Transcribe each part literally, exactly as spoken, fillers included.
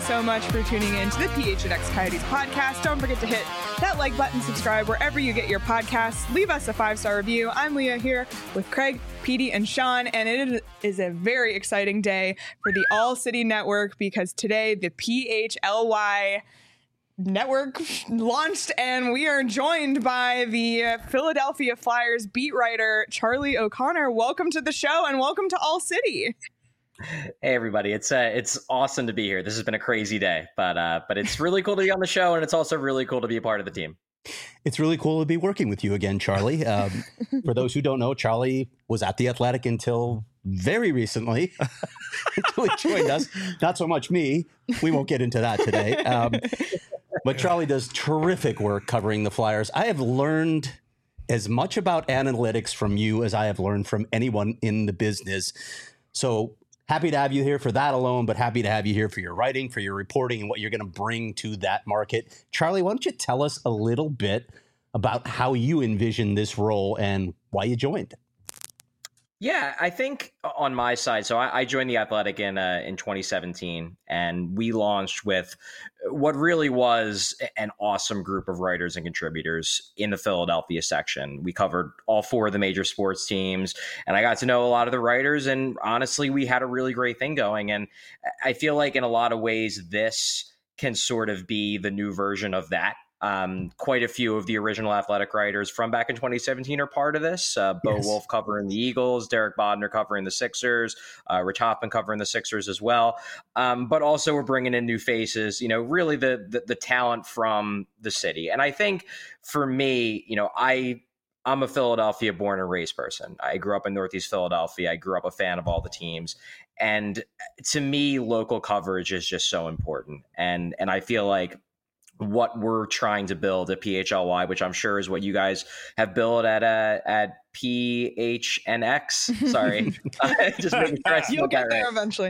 so much for tuning in to the P H N X Coyotes podcast. Don't forget to hit that like button, subscribe wherever you get your podcasts. Leave us a five-star review. I'm Leah here with Craig, Petey, and Sean, and it is a very exciting day for the All City Network because today the P H L Y Network launched, and we are joined by the Philadelphia Flyers beat writer Charlie O'Connor. Welcome to the show, and welcome to All City. Hey everybody, it's uh, it's awesome to be here. This has been a crazy day, but uh, but it's really cool to be on the show, and it's also really cool to be a part of the team. It's really cool to be working with you again, Charlie. Um, for those who don't know, Charlie was at The Athletic until very recently, until he joined us. Not so much me. We won't get into that today. Um, but Charlie does terrific work covering the Flyers. I have learned as much about analytics from you as I have learned from anyone in the business. So happy to have you here for that alone, but happy to have you here for your writing, for your reporting, and what you're going to bring to that market. Charlie, why don't you tell us a little bit about how you envision this role and why you joined? Yeah, I think on my side, so I, I joined The Athletic in uh, in twenty seventeen, and we launched with what really was an awesome group of writers and contributors in the Philadelphia section. We covered all four of the major sports teams, and I got to know a lot of the writers, and honestly, we had a really great thing going. And I feel like in a lot of ways, this can sort of be the new version of that. Um, quite a few of the original Athletic writers from back in twenty seventeen are part of this. Uh, Bo yes. Wolf covering the Eagles, Derek Bodner covering the Sixers, uh, Rich Hoffman covering the Sixers as well. Um, but also we're bringing in new faces, you know, really the, the the talent from the city. And I think for me, you know, I I'm a Philadelphia born and raised person. I grew up in Northeast Philadelphia. I grew up a fan of all the teams. And to me, local coverage is just so important. And and I feel like what we're trying to build at P H L Y, which I'm sure is what you guys have built at uh, at P H N X. Sorry, just making sure I you'll get there right. eventually.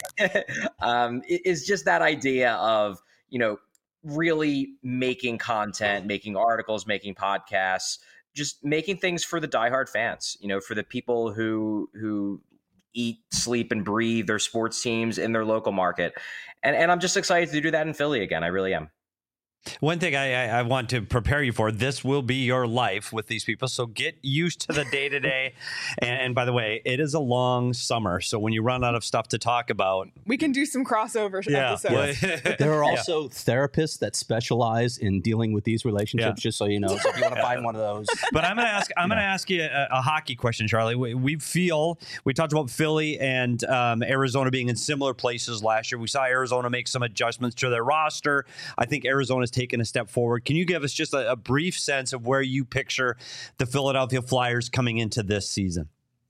um, is just that idea of, you know, really making content, making articles, making podcasts, just making things for the diehard fans. You know, for the people who who eat, sleep, and breathe their sports teams in their local market. And and I'm just excited to do that in Philly again. I really am. One thing I, I want to prepare you for, this will be your life with these people. So get used to the day to day. And by the way, it is a long summer. So when you run out of stuff to talk about, we can do some crossover yeah. episodes. Yes. There are also yeah. therapists that specialize in dealing with these relationships, yeah. just so you know. So if you want to find one of those. But I'm going to ask I'm going to ask you a, a hockey question, Charlie. We, we feel, we talked about Philly and um, Arizona being in similar places last year. We saw Arizona make some adjustments to their roster. I think Arizona's taken a step forward. Can you give us just a, a brief sense of where you picture the Philadelphia Flyers coming into this season?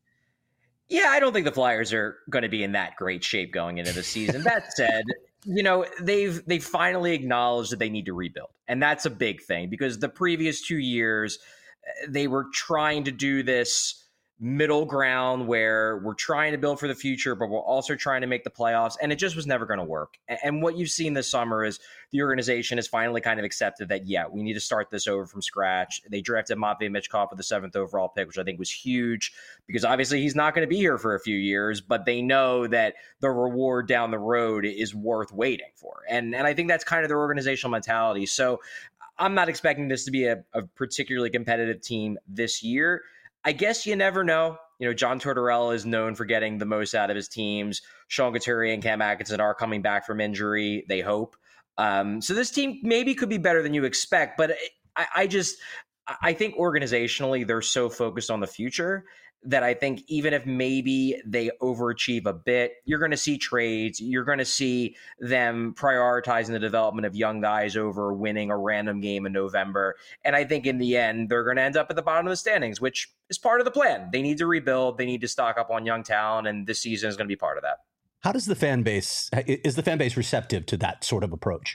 Yeah, I don't think the Flyers are going to be in that great shape going into the season. That said, you know, they've they finally acknowledged that they need to rebuild. And that's a big thing because the previous two years, they were trying to do this middle ground where we're trying to build for the future, but we're also trying to make the playoffs. And it just was never going to work. And what you've seen this summer is the organization has finally kind of accepted that, yeah, we need to start this over from scratch. They drafted Matvei Michkov with the seventh overall pick, which I think was huge because obviously he's not going to be here for a few years, but they know that the reward down the road is worth waiting for. And, and I think that's kind of their organizational mentality. So I'm not expecting this to be a, a particularly competitive team this year. I guess you never know. You know, John Tortorella is known for getting the most out of his teams. Sean Couturier and Cam Atkinson are coming back from injury, they hope. Um, so this team maybe could be better than you expect, but I, I just, I think organizationally, they're so focused on the future that I think even if maybe they overachieve a bit, you're going to see trades. You're going to see them prioritizing the development of young guys over winning a random game in November. And I think in the end, they're going to end up at the bottom of the standings, which is part of the plan. They need to rebuild. They need to stock up on young talent. And this season is going to be part of that. How does the fan base, is the fan base receptive to that sort of approach?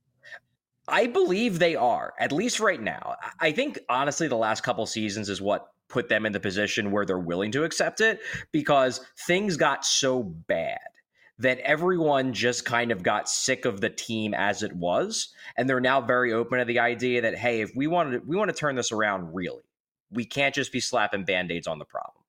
I believe they are, at least right now. I think, honestly, the last couple seasons is what put them in the position where they're willing to accept it because things got so bad that everyone just kind of got sick of the team as it was. And they're now very open to the idea that, hey, if we want to, we want to turn this around, really, we can't just be slapping Band-Aids on the problem.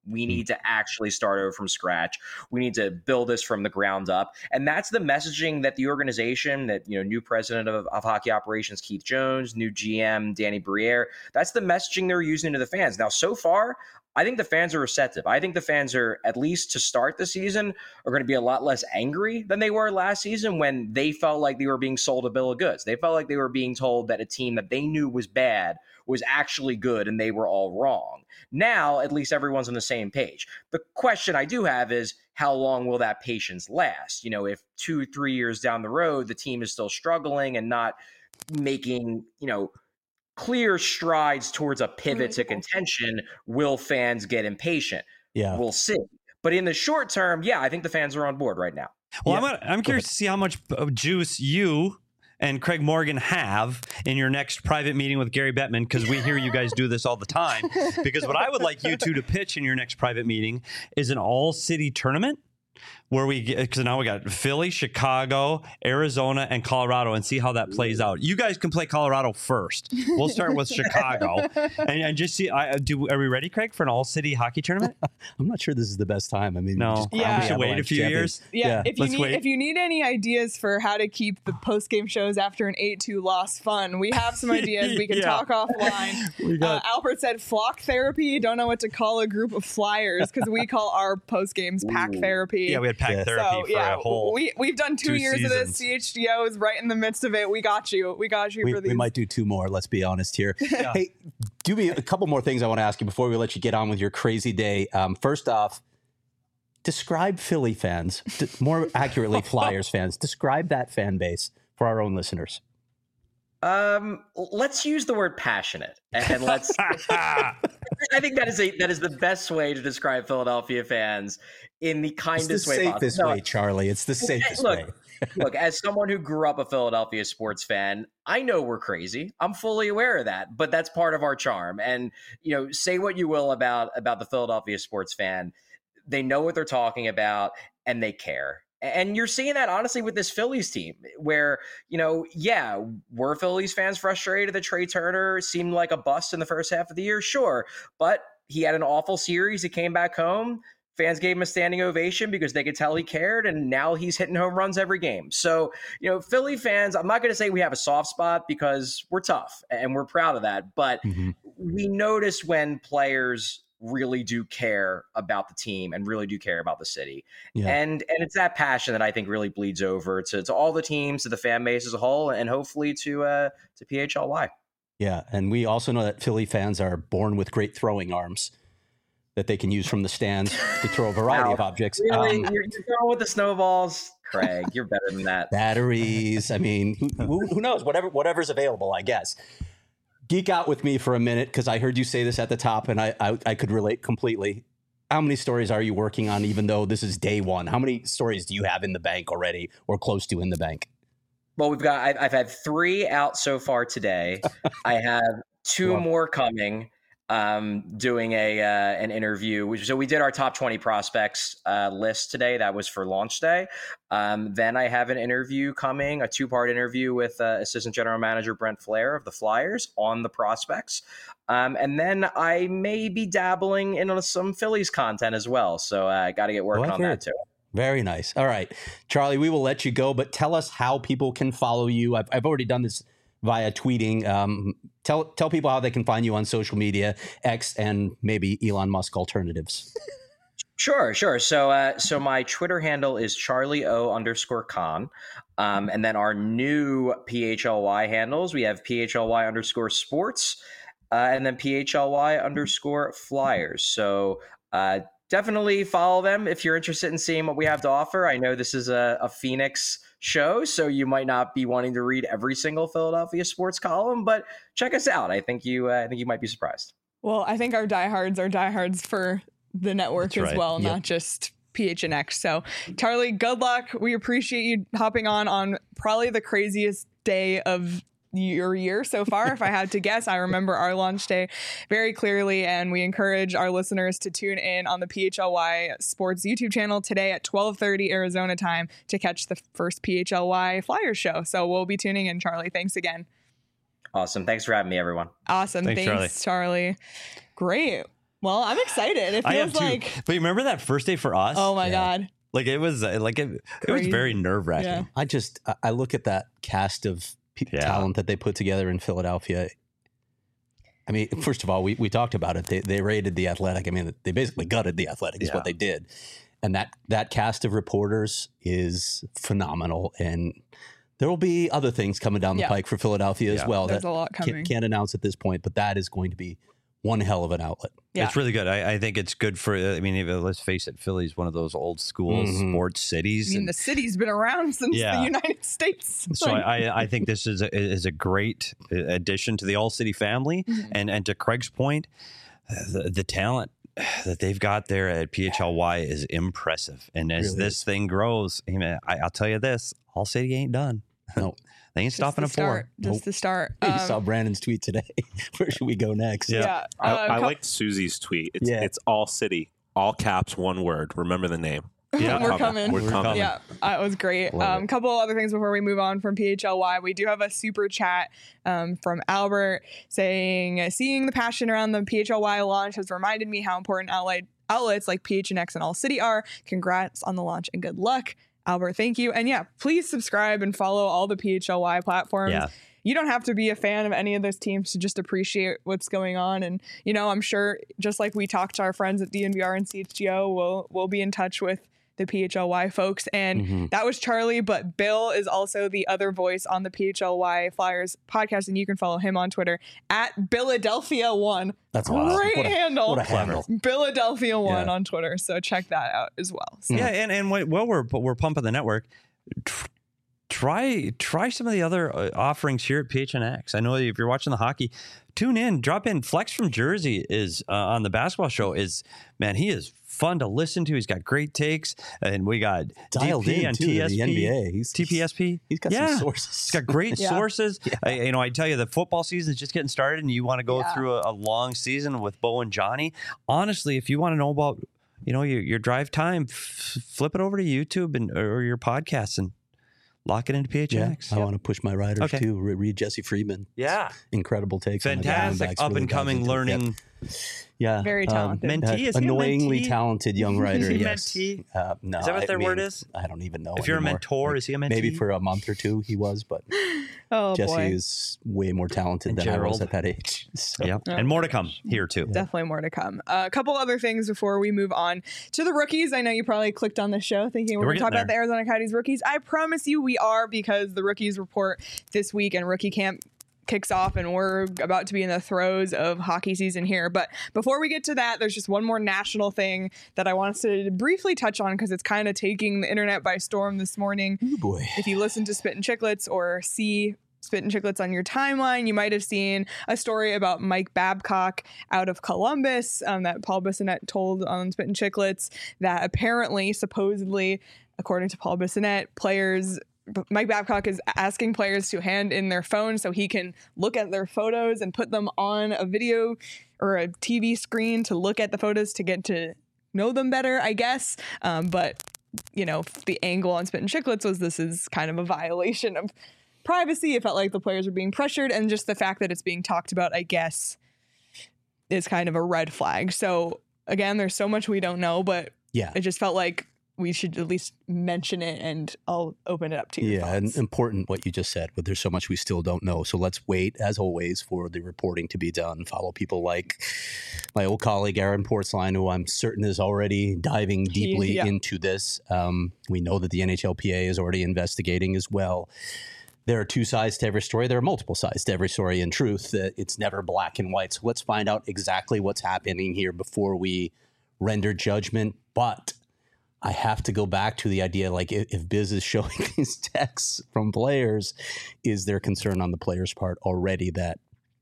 We need to actually start over from scratch. We need to build this from the ground up. And that's the messaging that the organization, that, you know, new president of, of hockey operations, Keith Jones, new G M, Danny Briere, that's the messaging they're using to the fans. Now, so far, I think the fans are receptive. I think the fans are, at least to start the season, are going to be a lot less angry than they were last season when they felt like they were being sold a bill of goods. They felt like they were being told that a team that they knew was bad was actually good and they were all wrong. Now, at least everyone's on the same page. The question I do have is, how long will that patience last? You know, if two, three years down the road, the team is still struggling and not making, you know, clear strides towards a pivot to contention, will fans get impatient? Yeah. We'll see. But in the short term, yeah, I think the fans are on board right now. Well, Yeah. I'm, I'm curious to see how much juice you and Craig Morgan have in your next private meeting with Gary Bettman, because we hear you guys do this all the time. Because what I would like you two to pitch in your next private meeting is an all-city tournament where we get, because now we got Philly, Chicago, Arizona, and Colorado, and see how that plays out. You guys can play Colorado first. We'll start with Chicago, and, and just see. I do. Are we ready, Craig, for an all-city hockey tournament? I'm not sure this is the best time. I mean, No. just Yeah. We should wait a few years. Yeah, Yeah, if you let's need wait. if you need any ideas for how to keep the post game shows after an eight two loss fun, we have some ideas. We can Yeah. talk offline. We Uh, got Albert said flock therapy. Don't know what to call a group of flyers because we call our post games pack Ooh. therapy. yeah, we had pack Yeah. therapy so for yeah, a whole. we we've done two, two years of this. seasons. C H G O is right in the midst of it. We got you. We got you we, for these. we might do two more. Let's be honest here. Yeah. Hey, do me a couple more things I want to ask you before we let you get on with your crazy day. Um, first off, describe Philly fans, d- more accurately, Flyers fans. Describe that fan base for our own listeners. Um, let's use the word passionate, and let's. I think that is a that is the best way to describe Philadelphia fans in the It's kindest the way safest possible. way, No, Charlie. It's the safest look, way. look, as someone who grew up a Philadelphia sports fan, I know we're crazy. I'm fully aware of that, but that's part of our charm. And, you know, say what you will about about the Philadelphia sports fan, they know what they're talking about and they care. And you're seeing that honestly with this Phillies team where, you know, yeah, were Phillies fans frustrated that Trey Turner seemed like a bust in the first half of the year? Sure. But he had an awful series. He came back home. Fans gave him a standing ovation because they could tell he cared, and now he's hitting home runs every game. So, you know, Philly fans, I'm not going to say we have a soft spot because we're tough and we're proud of that, but Mhm. we notice when players really do care about the team and really do care about the city. Yeah. And and it's that passion that I think really bleeds over to, to all the teams, to the fan base as a whole, and hopefully to uh, to P H L Y. Yeah, and we also know that Philly fans are born with great throwing arms that they can use from the stands to throw a variety Wow. of objects. Really? Um, you're, you're going with the snowballs? Craig, you're better than that. batteries. I mean, who, who, who knows? Whatever, whatever's available, I guess. Geek out with me for a minute because I heard you say this at the top, and I, I I could relate completely. How many stories are you working on, even though this is day one? How many stories do you have in the bank already, or close to in the bank? Well, we've got. I've, I've had three out so far today. I have two Wow. more coming. Um, doing a uh, an interview. Which, so we did our top twenty prospects uh, list today. That was for launch day. Um, then I have an interview coming, a two part interview with uh, Assistant General Manager Brent Flair of the Flyers on the prospects. Um, and then I may be dabbling in some Phillies content as well. So I uh, got to get working Oh, I on hear that it. too. Very nice. All right, Charlie, we will let you go, but tell us how people can follow you. I've, I've already done this via tweeting. Um, tell tell people how they can find you on social media, X, and maybe Elon Musk alternatives. Sure, sure. So, uh, so my Twitter handle is Charlie O underscore Con, um, and then our new P H L Y handles we have P H L Y underscore Sports, uh, and then P H L Y underscore Flyers. So, uh, definitely follow them if you're interested in seeing what we have to offer. I know this is a, a Phoenix show, so you might not be wanting to read every single Philadelphia sports column, but check us out. I think you, uh, I think you might be surprised. Well, I think our diehards are diehards for the network That's as right. well, Yep. not just P H N X. So, Charlie, good luck. We appreciate you hopping on on probably the craziest day of your year so far. If I had to guess, I remember our launch day very clearly, and we encourage our listeners to tune in on the P H L Y Sports YouTube channel today at twelve thirty Arizona time to catch the first P H L Y Flyers show. So we'll be tuning in, Charlie. Thanks again. Awesome. Thanks for having me, everyone. Awesome. Thanks, Thanks, Charlie. Great. Well, I'm excited. It I am feels too. like, But you remember that first day for us? oh my Yeah. God. Like it was uh, like it, it was Crazy. very nerve wracking. Yeah. I just I- I look at that cast of pe- Yeah. talent that they put together in Philadelphia. I mean, first of all, we, we talked about it. They they raided the Athletic. I mean, they basically gutted the Athletic is Yeah. what they did. And that that cast of reporters is phenomenal. And there will be other things coming down the Yeah. pike for Philadelphia as Yeah. well There's that a lot coming. can't, can't announce at this point, but that is going to be one hell of an outlet. Yeah. It's really good. I, I think it's good for. I mean, even- let's face it, Philly's one of those old school Mhm. sports cities. I mean, and- the city's been around since Yeah. the United States. so Like, I, I think this is a, is a great addition to the All City family, Mhm. and and to Craig's point, the, the talent that they've got there at P H L Y is impressive. And as Really this is. thing grows, I mean, I, I'll tell you this: All City ain't done. No. They ain't just stopping the at start. four. Just Nope. the start. You Um, saw Brandon's tweet today. Where should we go next? Yeah. yeah. I, Uh, I co- liked Susie's tweet. It's Yeah. it's all city, all caps, one word. Remember the name. Yeah. We're coming. We're We're coming. coming. Yeah, uh, it was great. A Love um, it. couple other things before we move on from P H L Y. We do have a super chat um, from Albert saying, seeing the passion around the P H L Y launch has reminded me how important outlet, outlets like P H N X and All City are. Congrats on the launch and good luck. Albert, thank you. And yeah, please subscribe and follow all the P H L Y platforms. Yeah. You don't have to be a fan of any of those teams to just appreciate what's going on. And, you know, I'm sure just like we talked to our friends at D N V R and C H G O, we'll, we'll be in touch with the P H L Y folks. And Mhm. that was Charlie, but Bill is also the other voice on the P H L Y Flyers podcast. And you can follow him on Twitter at Philadelphia one. That's awesome. Great What a- handle. What a handle. Philadelphia one Yeah. on Twitter. So check that out as well. So, Yeah, and and wh- while we're we're pumping the network, tr- try try some of the other uh, offerings here at P H N X. I know if you're watching the hockey, tune in, drop in. Flex from Jersey is uh, on the basketball show. Is man, he is fun to listen to. He's got great takes, and we got Dialed D P in and too to T S P, the N B A. He's, T P S P. He's got yeah. some sources. He's got great Yeah. sources. I, you know, I tell you, the football season is just getting started, and you want to go Yeah. through a, a long season with Bo and Johnny. Honestly, if you want to know about, you know, your, your drive time, f- flip it over to YouTube and or your podcasts and lock it into P H N X. Yeah, I want to push my riders Okay. too. Re- Read Jesse Friedman. Yeah. Incredible takes. on the Fantastic Diamondbacks, up really and dives coming into it. learning. Yeah, Very um, talented. Mentee? uh, Is he a annoyingly mentee? talented young writer. Is he a yes. mentee? Uh, no, Is that what I their mean, word is? I don't even know. If you're a anymore. mentor, Like, is he a mentee? Maybe for a month or two he was, but oh Jesse boy. is way more talented And than I was Gerald. at that age. So, Yeah. Yeah. And more to come here, too. Definitely more to come. Uh, a couple other things before we move on to the rookies. I know you probably clicked on the show thinking we're We're going to talk getting about the Arizona Coyotes rookies. I promise you we are, because the rookies report this week and rookie camp kicks off and we're about to be in the throes of hockey season here. But before we get to that, there's just one more national thing that I want us to briefly touch on because it's kind of taking the internet by storm this morning. Ooh, boy. If you listen to Spit and Chicklets or see Spit and Chicklets on your timeline, you might have seen a story about Mike Babcock out of Columbus um, that Paul Bissonnette told on Spit and Chicklets, that apparently, supposedly, according to Paul Bissonnette, players Mike Babcock is asking players to hand in their phone so he can look at their photos and put them on a video or a T V screen to look at the photos to get to know them better, I guess. Um, but, you know, the angle on Spit and Chicklets was this is kind of a violation of privacy. It felt like the players were being pressured, and just the fact that it's being talked about, I guess, is kind of a red flag. So, again, there's so much we don't know, but Yeah. it just felt like we should at least mention it, and I'll open it up to you. Yeah, and important what you just said, but there's so much we still don't know. So let's wait, as always, for the reporting to be done. Follow people like my old colleague, Aaron Portsline, who I'm certain is already diving deeply yeah. into this. Um, we know that the N H L P A is already investigating as well. There are two sides to every story. There are multiple sides to every story. In truth, uh, it's never black and white. So let's find out exactly what's happening here before we render judgment. But I have to go back to the idea, like, if, if Biz is showing these texts from players, is there concern on the players' part already that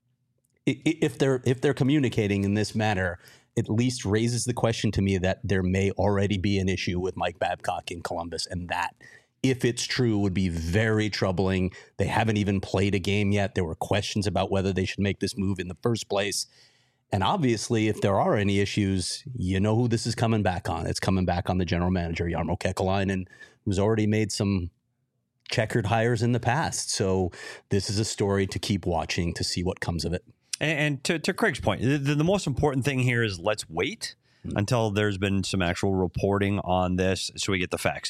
i- i- if they're if they're communicating in this manner, at least raises the question to me that there may already be an issue with Mike Babcock in Columbus, and that, if it's true, would be very troubling. They haven't even played a game yet. There were questions about whether they should make this move in the first place. And obviously, if there are any issues, you know who this is coming back on. It's coming back on the general manager, Jarmo Kekalainen, who's already made some checkered hires in the past. So this is a story to keep watching to see what comes of it. And, and to, to Craig's point, the, the most important thing here is let's wait mm-hmm. until there's been some actual reporting on this so we get the facts.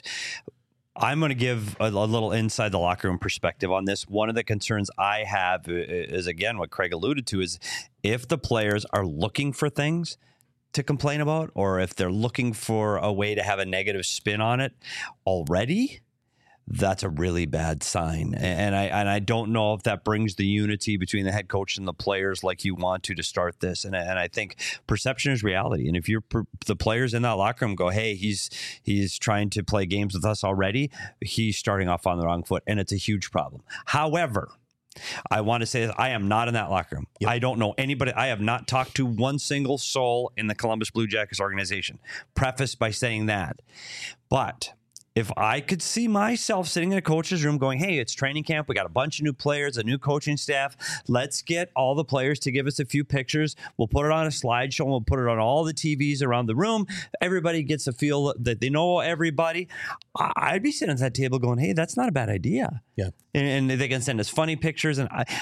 I'm going to give a, a little inside the locker room perspective on this. One of the concerns I have is, again, what Craig alluded to, is if the players are looking for things to complain about, or if they're looking for a way to have a negative spin on it already, that's a really bad sign. And I and I don't know if that brings the unity between the head coach and the players like you want to to start this. And, and I think perception is reality. And if you're the players in that locker room go, hey, he's he's trying to play games with us already, he's starting off on the wrong foot, and it's a huge problem. However, I want to say this, I am not in that locker room. Yep. I don't know anybody. I have not talked to one single soul in the Columbus Blue Jackets organization. Preface by saying that. But if I could see myself sitting in a coach's room going, hey, it's training camp. We got a bunch of new players, a new coaching staff. Let's get all the players to give us a few pictures. We'll put it on a slideshow. And we'll put it on all the T Vs around the room. Everybody gets a feel that they know everybody. I'd be sitting at that table going, hey, that's not a bad idea. Yeah. And, and they can send us funny pictures. And I,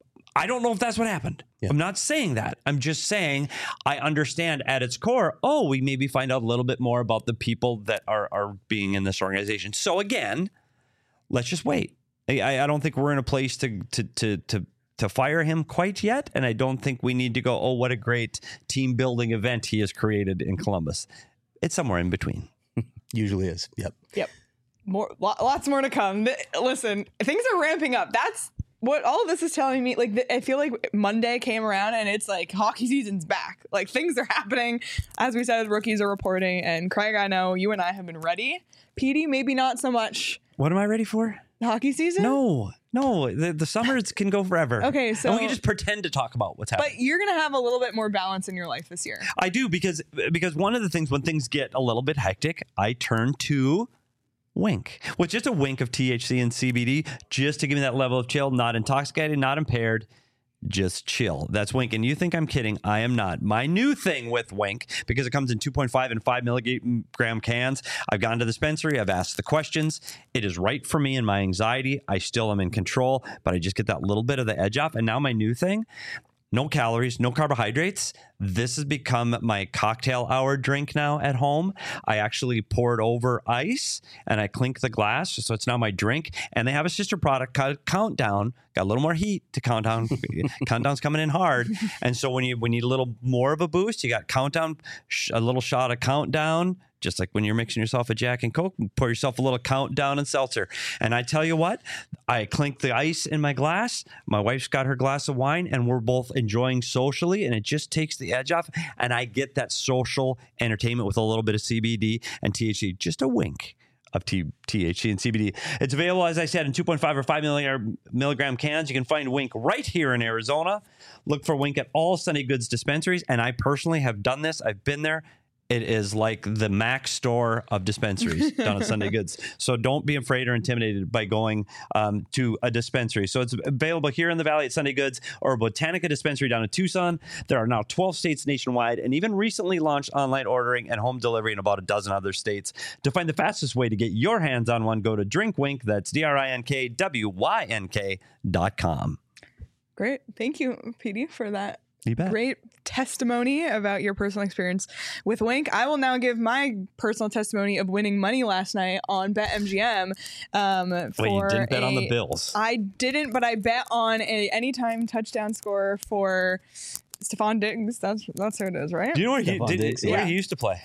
I don't know if that's what happened. Yeah. I'm not saying that. I'm just saying I understand at its core, oh, we maybe find out a little bit more about the people that are, are being in this organization. So again, let's just wait. I, I don't think we're in a place to, to, to, to, to fire him quite yet. And I don't think we need to go, oh, what a great team building event he has created in Columbus. It's somewhere in between. Usually is. Yep. Yep. More, lots more to come. Listen, things are ramping up. That's what all of this is telling me. Like, I feel like Monday came around and it's like hockey season's back. Like, things are happening. As we said, rookies are reporting. And Craig, I know you and I have been ready. Petey, maybe not so much. What am I ready for? Hockey season? No, no. The, the summers can go forever. Okay, so and we can just pretend to talk about what's happening. But you're gonna have a little bit more balance in your life this year. I do, because because one of the things when things get a little bit hectic, I turn to Wink, with just a wink of T H C and C B D, just to give me that level of chill, not intoxicated, not impaired, just chill. That's Wink. And you think I'm kidding? I am not. My new thing with Wink, because it comes in two point five and five milligram cans, I've gone to the dispensary, I've asked the questions. It is right for me and my anxiety. I still am in control, but I just get that little bit of the edge off. And now my new thing, no calories, no carbohydrates. This has become my cocktail hour drink now at home. I actually pour it over ice and I clink the glass. So it's now my drink. And they have a sister product called Countdown. Got a little more heat to Countdown. Countdown's coming in hard. And so when you, when you need a little more of a boost, you got Countdown, a little shot of Countdown. Just like when you're mixing yourself a Jack and Coke, pour yourself a little Countdown and seltzer. And I tell you what, I clink the ice in my glass. My wife's got her glass of wine, and we're both enjoying socially, and it just takes the edge off. And I get that social entertainment with a little bit of C B D and T H C, just a wink of T- THC and C B D. It's available, as I said, in two point five or five milligram cans. You can find Wink right here in Arizona. Look for Wink at all Sunday Goods dispensaries. And I personally have done this. I've been there. It is like the Mac store of dispensaries down at Sunday Goods. So don't be afraid or intimidated by going um, to a dispensary. So it's available here in the Valley at Sunday Goods or Botanica Dispensary down in Tucson. There are now twelve states nationwide and even recently launched online ordering and home delivery in about a dozen other states. To find the fastest way to get your hands on one, go to DrinkWink. That's D R I N K W Y N K dot com. Great. Thank you, Petey, for that. You bet. Great testimony about your personal experience with Wink. I will now give my personal testimony of winning money last night on BetMGM. Um, for Wait, you didn't bet a, on the Bills? I didn't, but I bet on a anytime touchdown score for Stephon Diggs. That's that's who it is, right? Do you know where he, did, Diggs, where yeah. he used to play?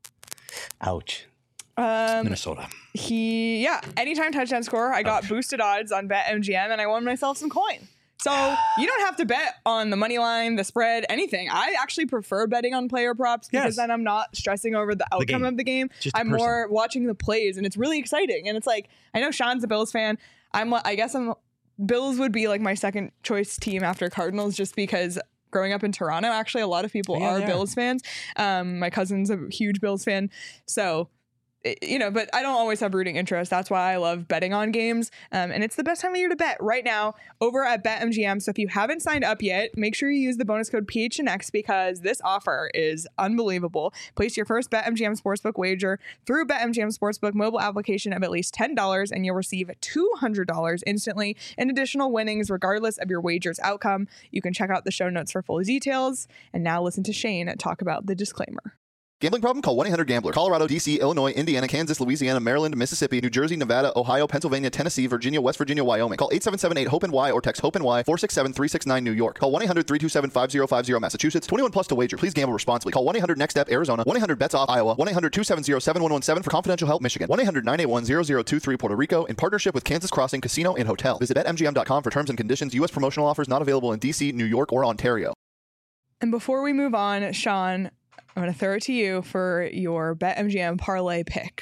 Ouch. Um, Minnesota. He, yeah, anytime touchdown score. I got Ouch. boosted odds on BetMGM, and I won myself some coin. So you don't have to bet on the money line, the spread, anything. I actually prefer betting on player props because yes. then I'm not stressing over the outcome the of the game. Just I'm more watching the plays, and it's really exciting. And it's like, I know Sean's a Bills fan. I'm, I guess I'm Bills would be like my second choice team after Cardinals, just because growing up in Toronto, actually a lot of people yeah, are yeah. Bills fans. Um, my cousin's a huge Bills fan. So you know, but I don't always have rooting interest. That's why I love betting on games. Um, and it's the best time of year to bet right now over at BetMGM. So if you haven't signed up yet, make sure you use the bonus code P H N X because this offer is unbelievable. Place your first BetMGM Sportsbook wager through BetMGM Sportsbook mobile application of at least ten dollars and you'll receive two hundred dollars instantly in additional winnings regardless of your wager's outcome. You can check out the show notes for full details. And now listen to Shane talk about the disclaimer. Gambling problem? Call one eight hundred gambler. Colorado, D C, Illinois, Indiana, Kansas, Louisiana, Maryland, Mississippi, New Jersey, Nevada, Ohio, Pennsylvania, Tennessee, Virginia, West Virginia, Wyoming. Call eight seven seven eight hope N Y or text HOPE-N Y four six seven three six nine New York. Call one eight hundred three two seven five zero five zero Massachusetts. twenty-one plus to wager. Please gamble responsibly. Call one eight hundred next step Arizona. one eight hundred bets off Iowa. one eight hundred two seven zero seven one one seven for confidential help Michigan. one eight hundred nine eight one zero zero two three Puerto Rico in partnership with Kansas Crossing Casino and Hotel. Visit bet M G M dot com for terms and conditions. U S promotional offers not available in D C, New York, or Ontario. And before we move on, Sean, I'm going to throw it to you for your BetMGM parlay pick.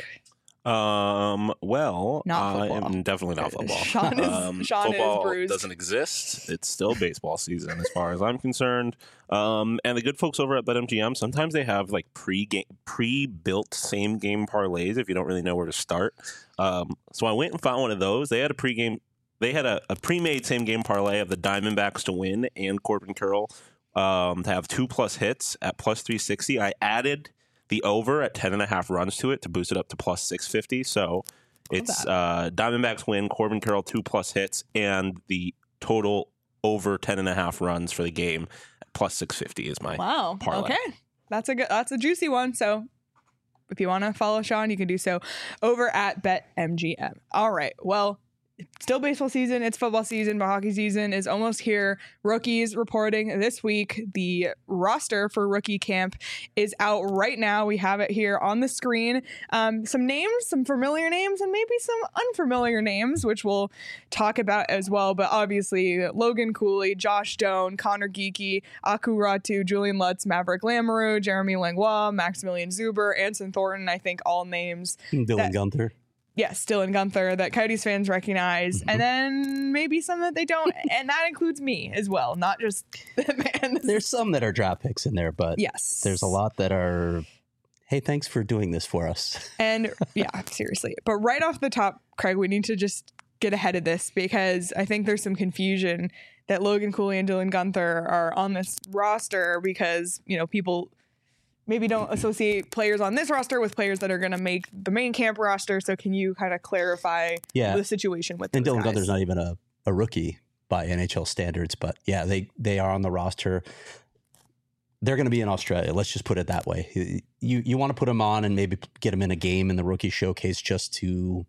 Um. Well, Not I football. am definitely not football. Sean is, um, Sean football is bruised. doesn't exist. It's still baseball season as far as I'm concerned. Um, and the good folks over at BetMGM, sometimes they have like pre-game, pre-built same game parlays if you don't really know where to start. Um, so I went and found one of those. They had a pre-game, they had a, a pre-made same game parlay of the Diamondbacks to win and Corbin Carroll um, to have two plus hits at plus three sixty. I added the over at ten and a half runs to it to boost it up to plus six fifty. So it's uh, Diamondbacks win, Corbin Carroll two plus hits, and the total over ten and a half runs for the game at plus six fifty is my Wow. parlay. Okay. That's a good, that's a juicy one. So if you want to follow Sean, you can do so over at BetMGM. All right. Well, it's still baseball season. It's football season, but hockey season is almost here. Rookies reporting this week. The roster for rookie camp is out right now. We have it here on the screen. Um, some names, some familiar names, and maybe some unfamiliar names, which we'll talk about as well. But obviously, Logan Cooley, Josh Doan, Connor Geeky, Aku Ratu, Julian Lutz, Maverick Lamoureux, Jeremy Langlois, Maximilian Zuber, Anson Thornton. I think all names. Dylan that- Gunther. Yes, Dylan Gunther that Coyotes fans recognize, Mm-hmm. and then maybe some that they don't, and that includes me as well, not just man. There's some that are draft picks in there, but yes, there's a lot that are, hey, thanks for doing this for us. and yeah, seriously. But right off the top, Craig, we need to just get ahead of this because I think there's some confusion that Logan Cooley and Dylan Gunther are on this roster because you know people maybe don't associate players on this roster with players that are going to make the main camp roster. So can you kind of clarify Yeah. the situation with And those Dylan guys? Gunther's not even a, a rookie by N H L standards, but yeah, they, they are on the roster. They're going to be in Australia. Let's just put it that way. You you want to put them on and maybe get them in a game in the rookie showcase just to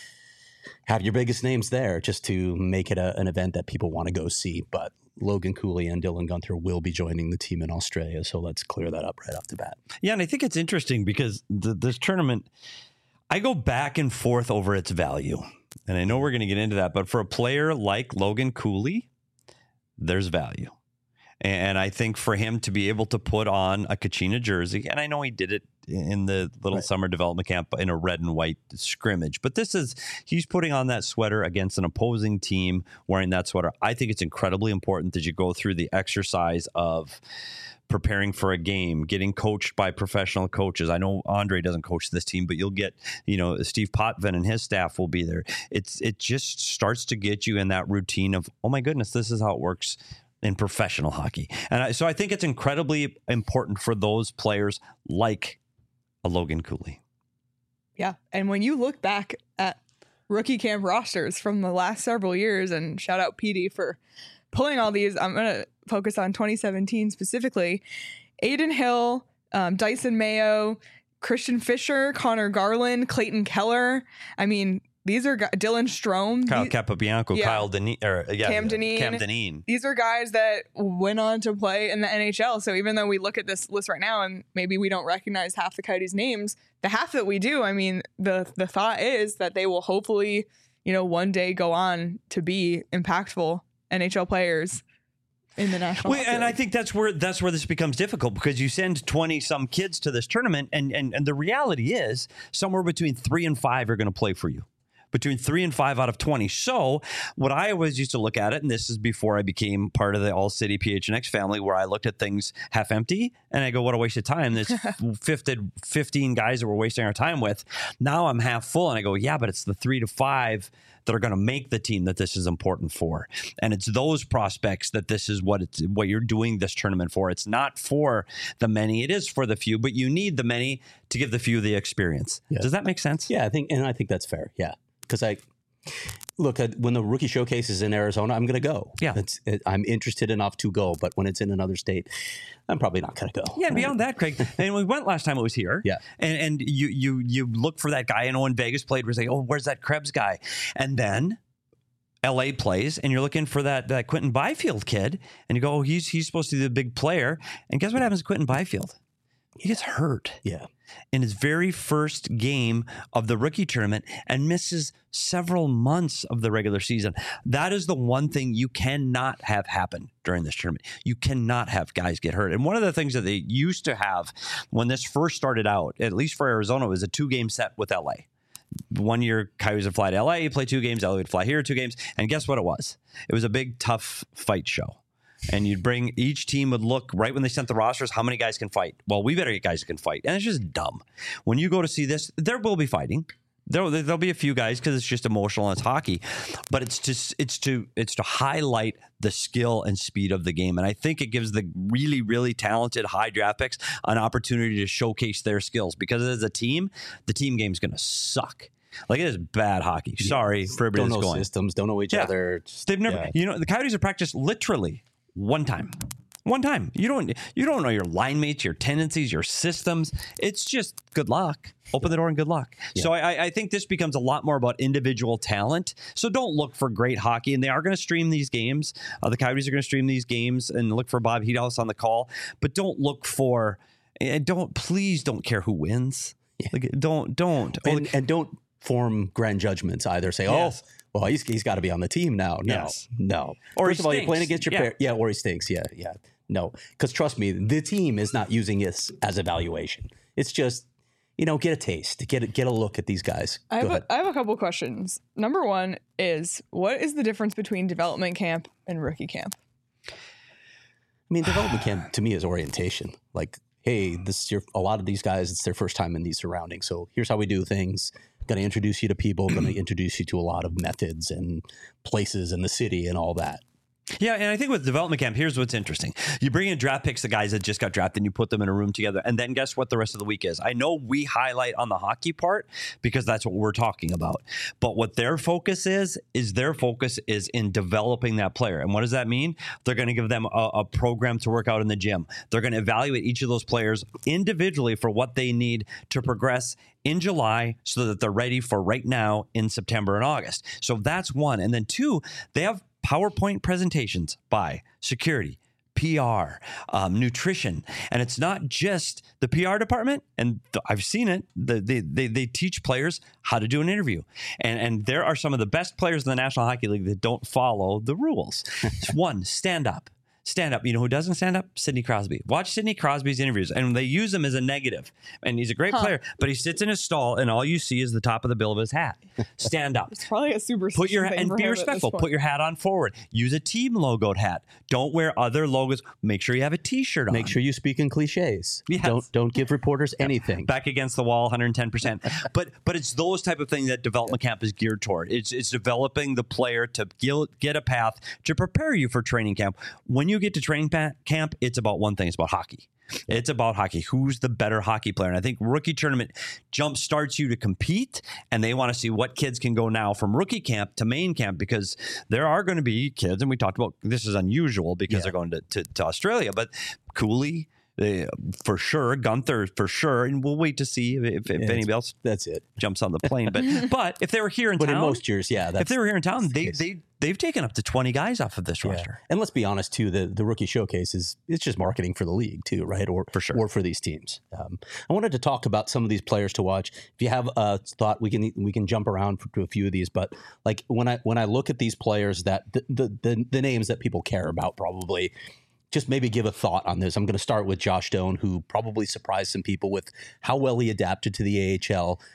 have your biggest names there, just to make it a, an event that people want to go see. But Logan Cooley and Dylan Gunther will be joining the team in Australia. So let's clear that up right off the bat. Yeah, and I think it's interesting because the, this tournament, I go back and forth over its value. And I know we're going to get into that, but for a player like Logan Cooley, there's value. And I think for him to be able to put on a Kachina jersey, and I know he did it in the little Right. summer development camp in a red and white scrimmage, but this is, he's putting on that sweater against an opposing team wearing that sweater. I think it's incredibly important that you go through the exercise of preparing for a game, getting coached by professional coaches. I know Andre doesn't coach this team, but you'll get, you know, Steve Potvin and his staff will be there. It's, it just starts to get you in that routine of, oh my goodness, this is how it works in professional hockey. And I, so I think it's incredibly important for those players like a Logan Cooley. Yeah. And when you look back at rookie camp rosters from the last several years, and shout out P D for pulling all these, I'm going to focus on twenty seventeen specifically. Aiden Hill, um, Dyson Mayo, Christian Fisher, Connor Garland, Clayton Keller. I mean, these are gu- Dylan Strome. Kyle these, Capobianco, yeah. Kyle Deneen, or yeah, Cam Dineen. Cam Dineen. these are guys that went on to play in the N H L. So even though we look at this list right now and maybe we don't recognize half the Coyotes' names, the half that we do, I mean, the the thought is that they will hopefully, you know, one day go on to be impactful N H L players in the national. Well, Hockey and I League. think that's where that's where this becomes difficult because you send twenty some kids to this tournament, and and and the reality is somewhere between three and five are going to play for you. between three and five out of twenty. So what I always used to look at it, and this is before I became part of the All City P H N X family, where I looked at things half empty and I go, what a waste of time. There's fifteen guys that we're wasting our time with. Now I'm half full and I go, yeah, but it's the three to five that are going to make the team that this is important for. And it's those prospects that this is what it's what you're doing this tournament for. It's not for the many, it is for the few, but you need the many to give the few the experience. Yeah. Does that make sense? Yeah, I think, and I think that's fair. Yeah. Because I look at when the rookie showcase is in Arizona, I'm going to go. Yeah. It's, it, I'm interested enough to go, but when it's in another state, I'm probably not going to go. Yeah, beyond that, Craig, and we went last time it was here. Yeah. And and you you you look for that guy. I know in Vegas played, we say, oh, where's that Krebs guy? And then L A plays, and you're looking for that, that Quentin Byfield kid, and you go, oh, he's, he's supposed to be the big player. And guess what happens to Quentin Byfield? He gets hurt. Yeah. In his very first game of the rookie tournament and misses several months of the regular season. That is the one thing you cannot have happen during this tournament. You cannot have guys get hurt. And one of the things that they used to have when this first started out, at least for Arizona, was a two-game set with L A. One year, Coyotes would fly to L A, play two games, L A would fly here, two games. And guess what it was? It was a big, tough fight show. And you'd bring, each team would look right when they sent the rosters, how many guys can fight? Well, we better get guys who can fight. And it's just dumb. When you go to see this, there will be fighting. There, there'll be a few guys because it's just emotional and it's hockey. But it's just, it's to, it's to highlight the skill and speed of the game. And I think it gives the really, really talented high draft picks an opportunity to showcase their skills. Because as a team, the team game's going to suck. Like, it is bad hockey. Sorry for everybody don't that's know going. Systems, don't know each Yeah. other. Just, They've never, yeah. you know, the Coyotes have practiced literally one time. One time. You don't you don't know your line mates, your tendencies, your systems. It's just good luck. Open the door and good luck. Yeah. So I, I think this becomes a lot more about individual talent. So don't look for great hockey. And they are going to stream these games. Uh, the Coyotes are going to stream these games and look for Bob Heathouse on the call. But don't look for, and don't, please don't care who wins. Yeah. Like, don't, don't. And, and don't form grand judgments either. Say, yes. oh, well, he's, he's got to be on the team now. No, yes. no. Or First he of all, stinks. you're playing against your yeah. pair. Yeah, or he stinks. Yeah, yeah. No, because trust me, the team is not using this as evaluation. It's just, you know, get a taste, get a, get a look at these guys. I have, Go ahead. a, I have a couple questions. Number one is, what is the difference between development camp and rookie camp? I mean, development camp to me is orientation. Like, hey, this is your, a lot of these guys, it's their first time in these surroundings. So here's how we do things. Going to introduce you to people, going to introduce you to a lot of methods and places in the city and all that. Yeah, and I think with development camp, here's what's interesting. You bring in draft picks, the guys that just got drafted, and you put them in a room together, and then guess what the rest of the week is? I know we highlight on the hockey part because that's what we're talking about. But what their focus is, is their focus is in developing that player. And what does that mean? They're going to give them a, a program to work out in the gym. They're going to evaluate each of those players individually for what they need to progress in July so that they're ready for right now in September and August. So that's one. And then two, they have PowerPoint presentations by security, P R, um, nutrition. And it's not just the P R department. And th- I've seen it. The, they, they, they teach players how to do an interview. And, and there are some of the best players in the National Hockey League that don't follow the rules. One, stand up. Stand up. You know who doesn't stand up? Sidney Crosby. Watch Sidney Crosby's interviews, and they use him as a negative. And he's a great huh. player, but he sits in his stall, and all you see is the top of the bill of his hat. Stand up. It's probably a superstition. Put your and be respectful. Put your hat on forward. Use a team logoed hat. Don't wear other logos. Make sure you have a T-shirt on. Make sure you speak in cliches. Yes. Don't don't give reporters anything. Back against the wall, one hundred ten percent. But but it's those type of things that development camp is geared toward. It's it's developing the player to get a path to prepare you for training camp. When you get to training camp. Camp, it's about one thing. It's about hockey. It's about hockey. Who's the better hockey player? And I think rookie tournament jump starts you to compete, and they want to see what kids can go now from rookie camp to main camp, because there are going to be kids, and we talked about this is unusual because yeah. they're going to, to, to Australia, but Cooley, They, for sure, Gunther for sure, and we'll wait to see if, if yeah, anybody else that's it jumps on the plane. But but if they were here in but town, in most years, yeah, that's, if they were here in town, they the they they've taken up to twenty guys off of this yeah. roster. And let's be honest too, the the rookie showcase is it's just marketing for the league too, right? Or for sure, or for these teams. Um, I wanted to talk about some of these players to watch. If you have a thought, we can we can jump around to a few of these. But like when I when I look at these players, that the the, the, the names that people care about probably. Just maybe give a thought on this. I'm going to start with Josh Doan, who probably surprised some people with how well he adapted to the A H L.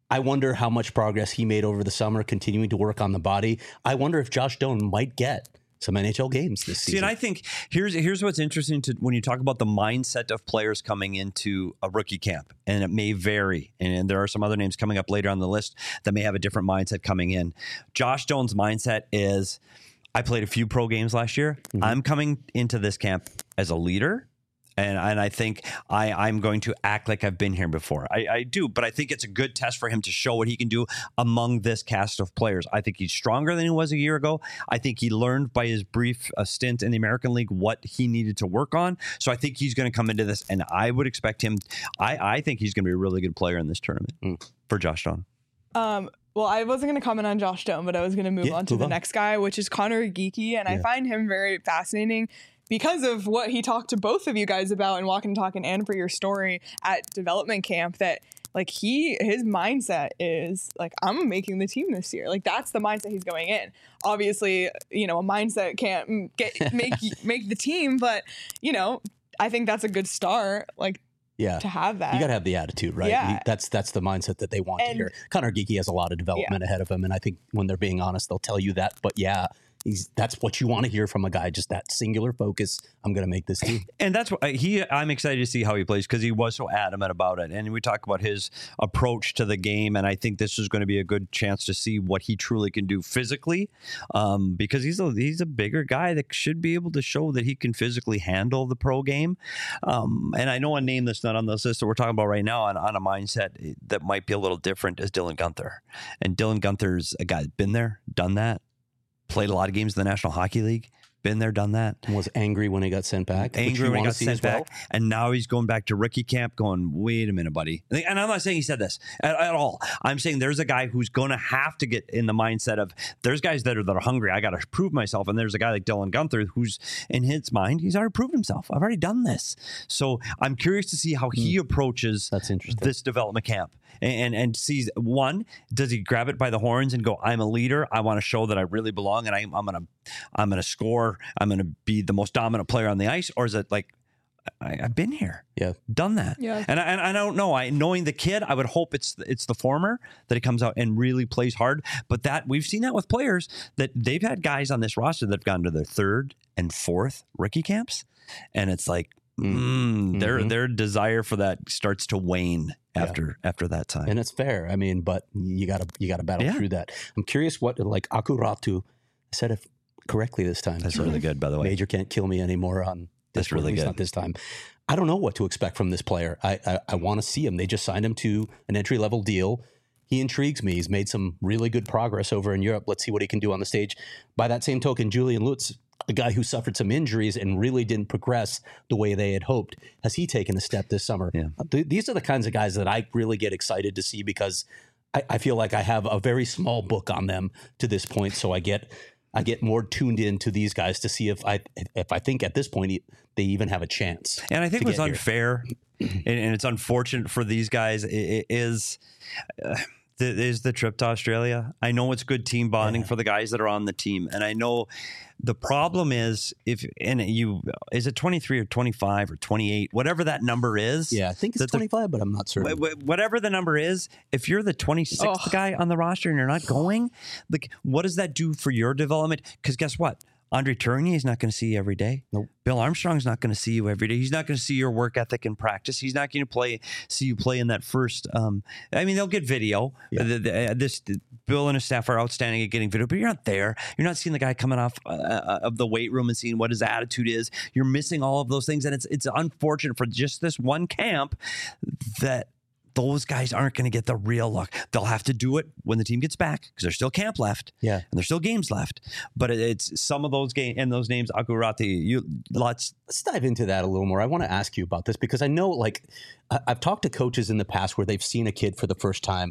I wonder how much progress he made over the summer, continuing to work on the body. I wonder if Josh Doan might get some N H L games this season. See, and I think here's here's what's interesting to when you talk about the mindset of players coming into a rookie camp, and it may vary. And there are some other names coming up later on the list that may have a different mindset coming in. Josh Doan's mindset is, I played a few pro games last year. Mm-hmm. I'm coming into this camp as a leader. And and I think I, I'm going to act like I've been here before. I, I do, but I think it's a good test for him to show what he can do among this cast of players. I think he's stronger than he was a year ago. I think he learned by his brief uh, stint in the American League what he needed to work on. So I think he's going to come into this, and I would expect him. I, I think he's going to be a really good player in this tournament mm. for Josh Doan. Um, well, I wasn't going to comment on Josh Doan, but I was going to move yeah, on to move the on. next guy, which is Connor Geekie, and yeah. I find him very fascinating because of what he talked to both of you guys about in Walk and Talkin' and for your story at development camp, that like he, his mindset is like, I'm making the team this year. Like that's the mindset he's going in. Obviously, you know, a mindset can't get, make, make the team, but you know, I think that's a good start. Like, yeah, to have that. You got to have the attitude, right? Yeah. You, that's that's the mindset that they want and, to hear. Connor Geekie has a lot of development yeah. ahead of him, and I think when they're being honest, they'll tell you that. But yeah, he's that's what you want to hear from a guy, just that singular focus. I'm going to make this team. And that's what he, I'm excited to see how he plays because he was so adamant about it. And we talk about his approach to the game. And I think this is going to be a good chance to see what he truly can do physically um, because he's a, he's a bigger guy that should be able to show that he can physically handle the pro game. Um, and I know a name that's not on this list that we're talking about right now on, on a mindset that might be a little different is Dylan Guenther. And Dylan Guenther's a guy that's been there, done that. Played a lot of games in the National Hockey League. Been there, done that. Was angry when he got sent back. Angry when he got sent back. Well. And now he's going back to rookie camp going, wait a minute, buddy. And I'm not saying he said this at, at all. I'm saying there's a guy who's going to have to get in the mindset of there's guys that are, that are hungry. I got to prove myself. And there's a guy like Dylan Guenther who's in his mind, he's already proved himself. I've already done this. So I'm curious to see how he mm. approaches That's interesting. this development camp. And, and and sees, one, does he grab it by the horns and go, I'm a leader. I want to show that I really belong and I, I'm going to I'm going to score. I'm going to be the most dominant player on the ice. Or is it like, I, I've been here, yeah, done that. Yeah. And, I, and I don't know. I knowing the kid, I would hope it's it's the former, that he comes out and really plays hard. But that we've seen that with players that they've had guys on this roster that have gone to their third and fourth rookie camps. And it's like, mm, mm-hmm. their their desire for that starts to wane after yeah. after that time. And it's fair. I mean, but you gotta you gotta battle yeah. through that. I'm curious what like Akuratu said it correctly this time. That's really good, by the way. Major can't kill me anymore on this. That's really good. Not this time. I don't know what to expect from this player. I I, I want to see him. They just signed him to an entry level deal. He intrigues me. He's made some really good progress over in Europe. Let's see what he can do on the stage. By that same token, Julian Lutz, a guy who suffered some injuries and really didn't progress the way they had hoped. Has he taken a step this summer? Yeah. Th- these are the kinds of guys that I really get excited to see because I, I feel like I have a very small book on them to this point. So I get I get more tuned in to these guys to see if I if I think at this point they even have a chance. And I think what's unfair and, and it's unfortunate for these guys it, it is. Uh, Is the trip to Australia. I know it's good team bonding yeah. for the guys that are on the team. And I know the problem is if, and you, is it twenty-three or twenty-five or twenty-eight, whatever that number is. Yeah, I think it's twenty-five, but I'm not certain. Whatever the number is, if you're the twenty-sixth oh. guy on the roster and you're not going, like, what does that do for your development? Because guess what? Andre Tourigny is not going to see you every day. Nope. Bill Armstrong's not going to see you every day. He's not going to see your work ethic in practice. He's not going to play see you play in that first. Um, I mean, they'll get video. Yeah. The, the, uh, this the, Bill and his staff are outstanding at getting video, but you're not there. You're not seeing the guy coming off uh, of the weight room and seeing what his attitude is. You're missing all of those things, and it's it's unfortunate for just this one camp that those guys aren't going to get the real look. They'll have to do it when the team gets back because there's still camp left. Yeah. And there's still games left. But it, it's some of those games and those names, Akurati, you let's let's dive into that a little more. I want to ask you about this because I know like I, I've talked to coaches in the past where they've seen a kid for the first time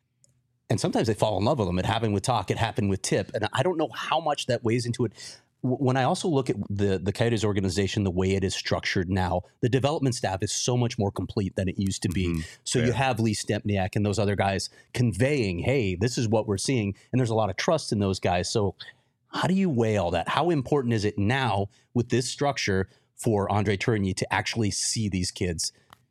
and sometimes they fall in love with them. It happened with Talk, it happened with Tip. And I don't know how much that weighs into it. When I also look at the, the Coyotes organization, the way it is structured now, the development staff is so much more complete than it used to be. Mm-hmm. So Fair. You have Lee Stempniak and those other guys conveying, hey, this is what we're seeing. And there's a lot of trust in those guys. So how do you weigh all that? How important is it now with this structure for Andre Tourigny to actually see these kids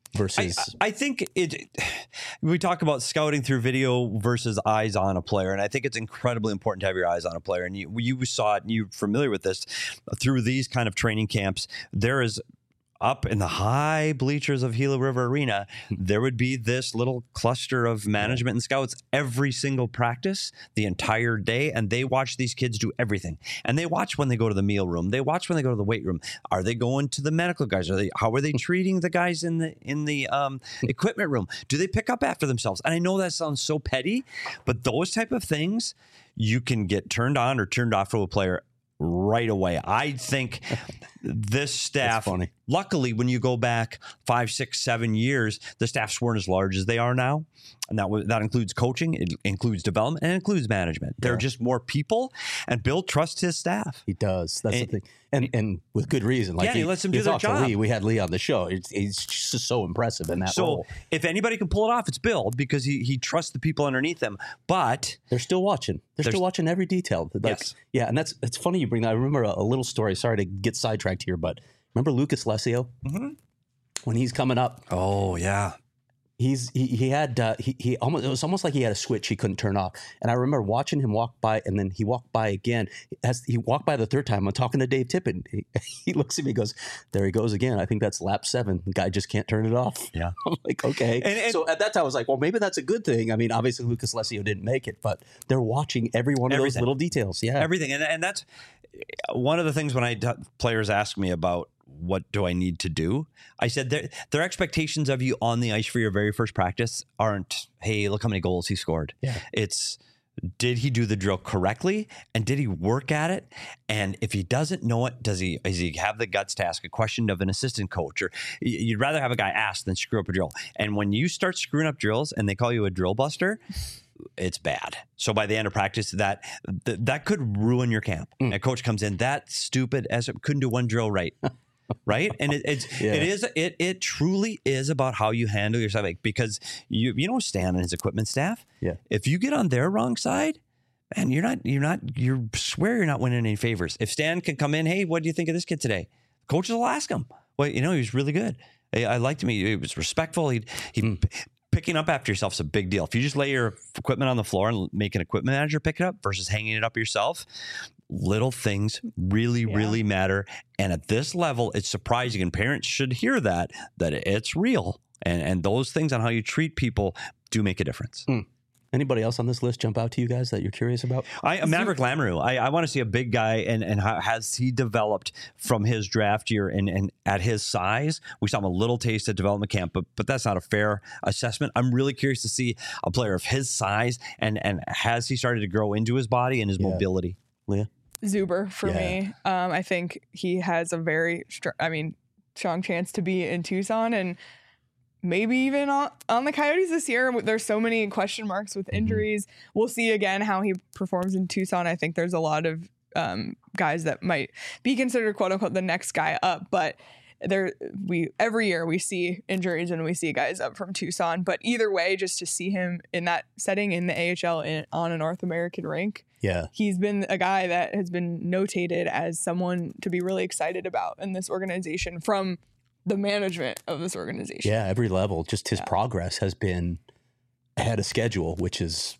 versus. I, I think it. We talk about scouting through video versus eyes on a player, and I think it's incredibly important to have your eyes on a player. And you, you saw it, and you're familiar with this through these kind of training camps. There is. Up in the high bleachers of Gila River Arena, there would be this little cluster of management and scouts every single practice, the entire day, and they watch these kids do everything. And they watch when they go to the meal room. They watch when they go to the weight room. Are they going to the medical guys? Are they? How are they treating the guys in the in the um, equipment room? Do they pick up after themselves? And I know that sounds so petty, but those type of things, you can get turned on or turned off from a player right away. I think this staff, luckily, when you go back five, six, seven years, the staffs weren't as large as they are now. And that w- that includes coaching, it includes development, and it includes management. There Yeah. are just more people, and Bill trusts his staff. He does. That's And- the thing. And and with good reason. Like Yeah, he lets them do you their talked to job. Lee. We had Lee on the show. It's, he's just so impressive in that So role. if anybody can pull it off, it's Bill, because he he trusts the people underneath him. But They're still watching. They're There's- still watching every detail. Like, Yes. Yeah, and that's it's funny you bring that. I remember a, a little story. Sorry to get sidetracked here, but remember Lucas Lesio? Mhm. When he's coming up, oh yeah, he's he, he had uh, he he almost it was almost like he had a switch he couldn't turn off. And I remember watching him walk by, and then he walked by again. As he walked by the third time, I'm talking to Dave Tippett. He, he looks at me, and goes, "There he goes again. I think that's lap seven. The guy just can't turn it off." Yeah. I'm like, okay. And- and- so at that time, I was like, well, maybe that's a good thing. I mean, obviously Lucas Lesio didn't make it, but they're watching every one of those Everything. little details. Yeah. everything, and and that's one of the things when I t- players ask me about what do I need to do, I said their their expectations of you on the ice for your very first practice aren't, hey, look how many goals he scored. Yeah. It's, did he do the drill correctly, and did he work at it? And if he doesn't know it, does he does he have the guts to ask a question of an assistant coach? Or y- you'd rather have a guy ask than screw up a drill. And when you start screwing up drills and they call you a drill buster, it's bad. So by the end of practice, that th- that could ruin your camp. Mm. A coach comes in, that stupid as it couldn't do one drill right. Right. And it, it's, Yeah. it is, it, it truly is about how you handle yourself, like, because you, you know, Stan and his equipment staff, Yeah. if you get on their wrong side, man, you're not, you're not, you swear you're not winning any favors. If Stan can come in, hey, what do you think of this kid today? Coaches will ask him. Well, you know, he was really good. I, I liked him. He, he was respectful. He, he, Mm. picking up after yourself is a big deal. If you just lay your equipment on the floor and make an equipment manager pick it up versus hanging it up yourself, little things really, Yeah. really matter. And at this level, it's surprising, and parents should hear that, that it's real. And, and those things on how you treat people do make a difference. Anybody else on this list jump out to you guys that you're curious about? I, Maverick Lamoureux, I, I want to see a big guy, and, and how has he developed from his draft year, and, and at his size? We saw him a little taste at development camp, but but that's not a fair assessment. I'm really curious to see a player of his size, and, and has he started to grow into his body and his Yeah. mobility? Leah? Zuber for Yeah. me. Um, I think he has a very, str- I mean, strong chance to be in Tucson and maybe even on, on the Coyotes this year. There's so many question marks with injuries. We'll see again how he performs in Tucson. I think there's a lot of um, guys that might be considered quote unquote the next guy up, but there we every year we see injuries and we see guys up from Tucson. But either way, just to see him in that setting in the A H L in, on a North American rink, Yeah. he's been a guy that has been notated as someone to be really excited about in this organization from the management of this organization. Yeah, every level. Just his Yeah. progress has been ahead of schedule, which is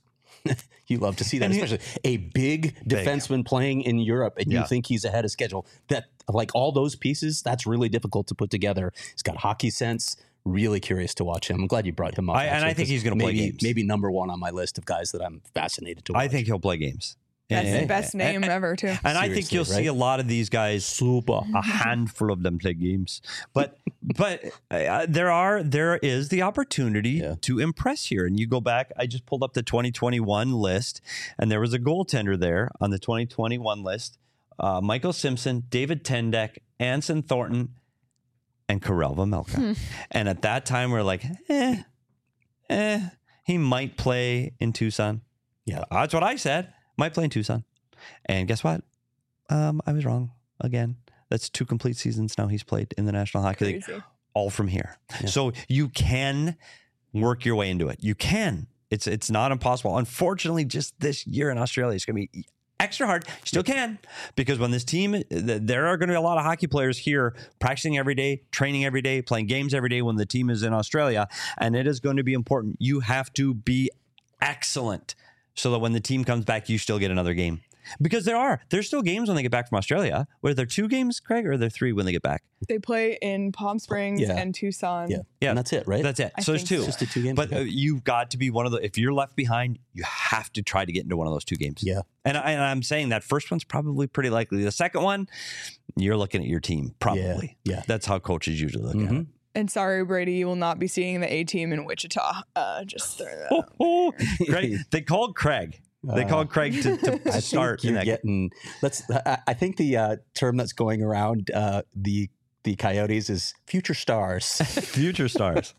you love to see that, And he- especially a big defenseman playing in Europe, and Yeah. you think he's ahead of schedule. That like all those pieces, that's really difficult to put together. He's got hockey sense. Really curious to watch him. I'm glad you brought him up. I- and actually, I think 'cause he's gonna play maybe games. maybe number one on my list of guys that I'm fascinated to watch. I think he'll play games. That's And- the best name and, ever, too. And I think Seriously, you'll see right? a lot of these guys, super. a handful of them play games. But but uh, there are there is the opportunity Yeah. to impress here. And you go back, I just pulled up the twenty twenty-one list, and there was a goaltender there on the twenty twenty-one list. Uh, Michael Simpson, David Tendek, Anson Thornton, and Karel Vejmelka. And at that time, we're like, eh, eh, he might play in Tucson. Yeah. That's what I said. Might play in Tucson. And guess what? Um, I was wrong again. That's two complete seasons now he's played in the National Hockey League, Crazy. all from here. Yeah. So you can work your way into it. You can. It's it's not impossible. Unfortunately, just this year in Australia, it's going to be extra hard. Still can, because when this team, there are going to be a lot of hockey players here practicing every day, training every day, playing games every day when the team is in Australia, and it is going to be important. You have to be excellent so that when the team comes back, you still get another game. Because there are, there's still games when they get back from Australia. Were there two games, Craig, or are there three when they get back? They play in Palm Springs Yeah. and Tucson. Yeah. Yeah. And that's it, right? That's it. I so there's think two. so. Just the two games. But Okay. uh, you've got to be one of the, if you're left behind, you have to try to get into one of those two games. Yeah. And, I, and I'm saying that first one's probably pretty likely. The second one, you're looking at your team, probably. Yeah. Yeah. That's how coaches usually look at it. Mhm. And sorry, Brady, you will not be seeing the A team in Wichita. Uh, just throwing that Oh, out. oh. Craig, they called Craig. They Uh, called Craig to, to, to I start. think in you're that getting. Let's. I, I think the uh, term that's going around uh, the the Coyotes is future stars. Future stars.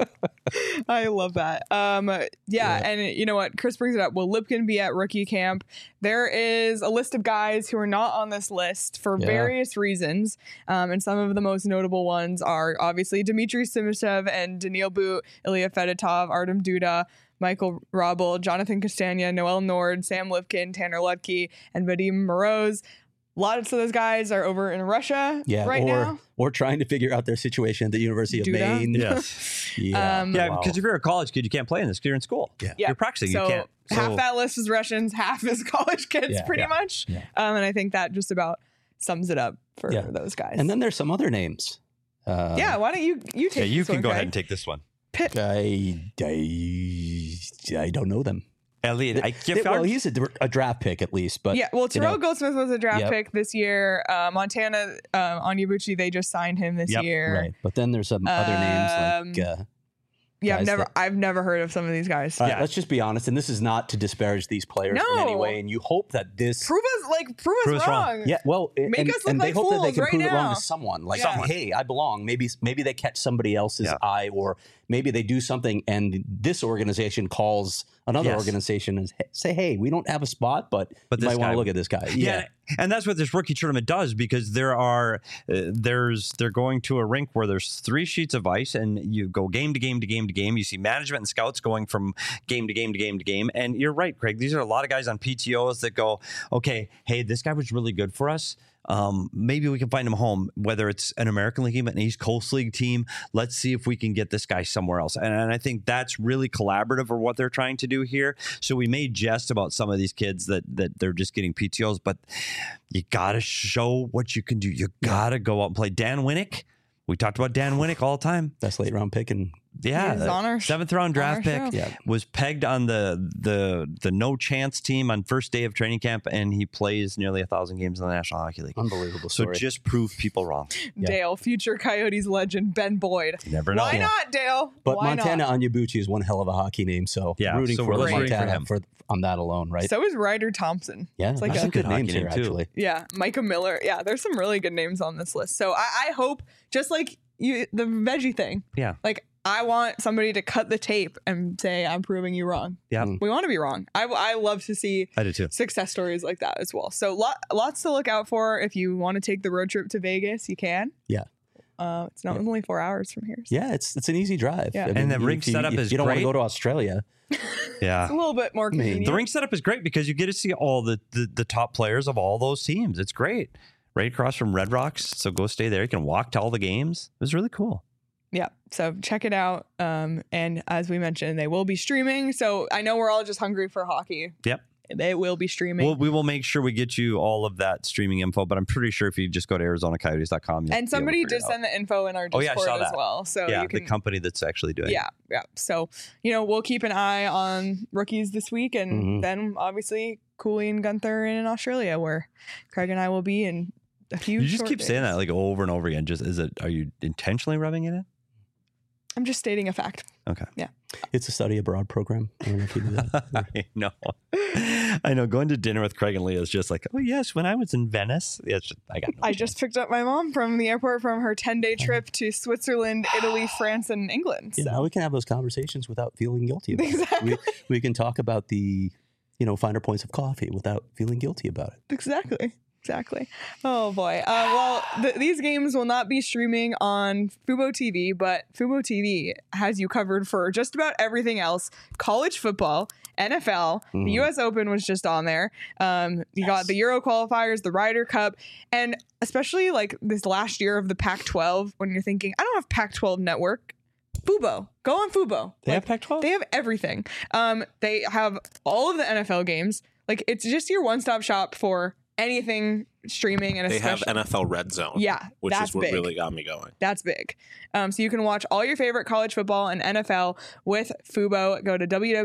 I love that. Um, yeah, Yeah. and you know what? Chris brings it up. Will Lipkin be at rookie camp? There is a list of guys who are not on this list for Yeah. various reasons. Um, and some of the most notable ones are obviously Dmitry Simashev and Daniil Boot, Ilya Fedotov, Artem Duda, Michael Robel, Jonathan Castagna, Noel Nord, Sam Lipkin, Tanner Lutke, and Vadim Moroz. Lots of those guys are over in Russia Yeah, right or now. or trying to figure out their situation at the University of Duda? Maine. Yes. Yeah. Um, Yeah, Wow. because if you're a college kid, you can't play in this because you're in school. Yeah. Yeah. You're practicing. So you can't. So, half that list is Russians, half is college kids, Yeah. pretty Yeah. much. Yeah. Um, and I think that just about sums it up for Yeah. those guys. And then there's some other names. Uh, yeah, why don't you you take? yeah, you this can one, go Craig? ahead and take this one. Pitt. I, I, I don't know them. Elliot, I They- well, he's a, dr- a draft pick at least, but Yeah, well, you Terrell know, Goldsmith was a draft Yep. pick this year. Uh, Montana, uh, Onyebuchi, they just signed him this Yep, year. right. But then there's some other names like. Um, Uh, Yeah, I've guys never, that- I've never heard of some of these guys. all right, Yeah. let's just be honest, and this is not to disparage these players in any No. way. And you hope that this, Prove us, like, prove us Prove us wrong. wrong. yeah, well, Make and, us look and they like hope that they fools can right prove it wrong now. to someone. Like, Someone. hey, I belong. Maybe, maybe they catch somebody else's Yeah. eye, or maybe they do something, and this organization calls another Yes. organization and say, hey, we don't have a spot, but, But you this might want guy- to look at this guy. Yeah. And that's what this rookie tournament does, because there are uh, there's they're going to a rink where there's three sheets of ice and you go game to game to game to game. You see management and scouts going from game to game to game to game. And you're right, Craig. These are a lot of guys on P T Os that go, okay, hey, this guy was really good for us. Um, maybe we can find him home, whether it's an American League team, an East Coast League team. Let's see if we can get this guy somewhere else. And, and I think that's really collaborative for what they're trying to do here. So we may jest about some of these kids that that they're just getting P T Os, but you got to show what you can do. You got to go out and play. Dan Winnick, we talked about Dan Winnick all the time. That's late round pick, and Yeah, He was on our- seventh round on our draft pick. show. Yeah. Was pegged on the the the no chance team on first day of training camp, and he plays nearly a thousand games in the National Hockey League. unbelievable So story. just prove people wrong. Yeah. Dale, future Coyotes legend Ben Boyd. You never know. Why not, Dale? But Why Montana not? Onyebuchi is one hell of a hockey name, so Yeah, rooting so for we're rooting Montana for him. for, on that alone, right? So is Ryder Thompson. yeah, it's like there's a- some good Good hockey names here name, too. actually. Yeah, Micah Miller. Yeah, there's some really good names on this list. So I, I hope, just like you, the veggie thing. Yeah. Like I want somebody to cut the tape and say, "I'm proving you wrong." Yeah. Mm. We want to be wrong. I, I love to see I do too. success stories like that as well. So lot, lots to look out for. If you want to take the road trip to Vegas, you can. Yeah. Uh, it's not only four hours from here. So Yeah, it's it's an easy drive. Yeah. I And the if rink you- setup if is you don't want great. to go to Australia. Yeah. it's a little bit more mean, convenient. The rink setup is great because you get to see all the, the, the top players of all those teams. It's great. Right across from Red Rocks. So go stay there. You can walk to all the games. It was really cool. Yeah, so check it out. Um, and as we mentioned, they will be streaming. So I know we're all just hungry for hockey. Yep. They will be streaming. Well, we will make sure we get you all of that streaming info, but I'm pretty sure if you just go to Arizona Coyotes dot com. and somebody did send the info in our Oh, Discord yeah, I saw as that. well. So Yeah, you can, the company that's actually doing it. yeah, yeah. So, you know, we'll keep an eye on rookies this week. And Mhm. then obviously Cooley and Gunther in Australia, where Craig and I will be in a few You just short keep saying days. that like over and over again. Just is it? Are you intentionally rubbing it in? I'm just stating a fact. Okay. It's a study abroad program. I don't know if you knew that. I know. I know. Going to dinner with Craig and Leah is just like, oh yes, when I was in Venice. Yeah, it's just, I got. No I chance. just picked up my mom from the airport from her ten-day trip to Switzerland, Italy, France, and England. Yeah, So. now we can have those conversations without feeling guilty about Exactly. it. We, we can talk about the, you know, finer points of coffee without feeling guilty about it. Exactly. Exactly. Oh boy. Uh, well, th- these games will not be streaming on Fubo T V, but Fubo T V has you covered for just about everything else: college football, N F L, Mhm. the U S Open was just on there. Um, you got the Euro qualifiers, the Ryder Cup, and especially like this last year of the Pac twelve, when you're thinking, I don't have Pac twelve network. Fubo. Go on Fubo. They Like, have Pac twelve? They have everything. Um, they have all of the N F L games. Like, it's just your one-stop shop for anything streaming, and They have especially N F L Red Zone. Yeah, which that's is what big. really got me going. That's big. Um, so you can watch all your favorite college football and N F L with Fubo. Go to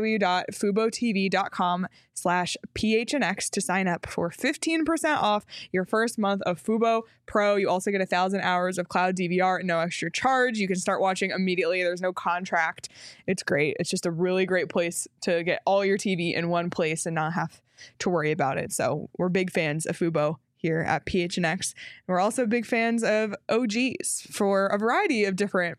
www.fubotv.com slash PHNX to sign up for fifteen percent off your first month of Fubo Pro. You also get a thousand hours of cloud D V R at no extra charge. You can start watching immediately. There's no contract. It's great. It's just a really great place to get all your T V in one place and not have to worry about it. So we're big fans of Fubo here at P H N X. We're also big fans of O Gs for a variety of different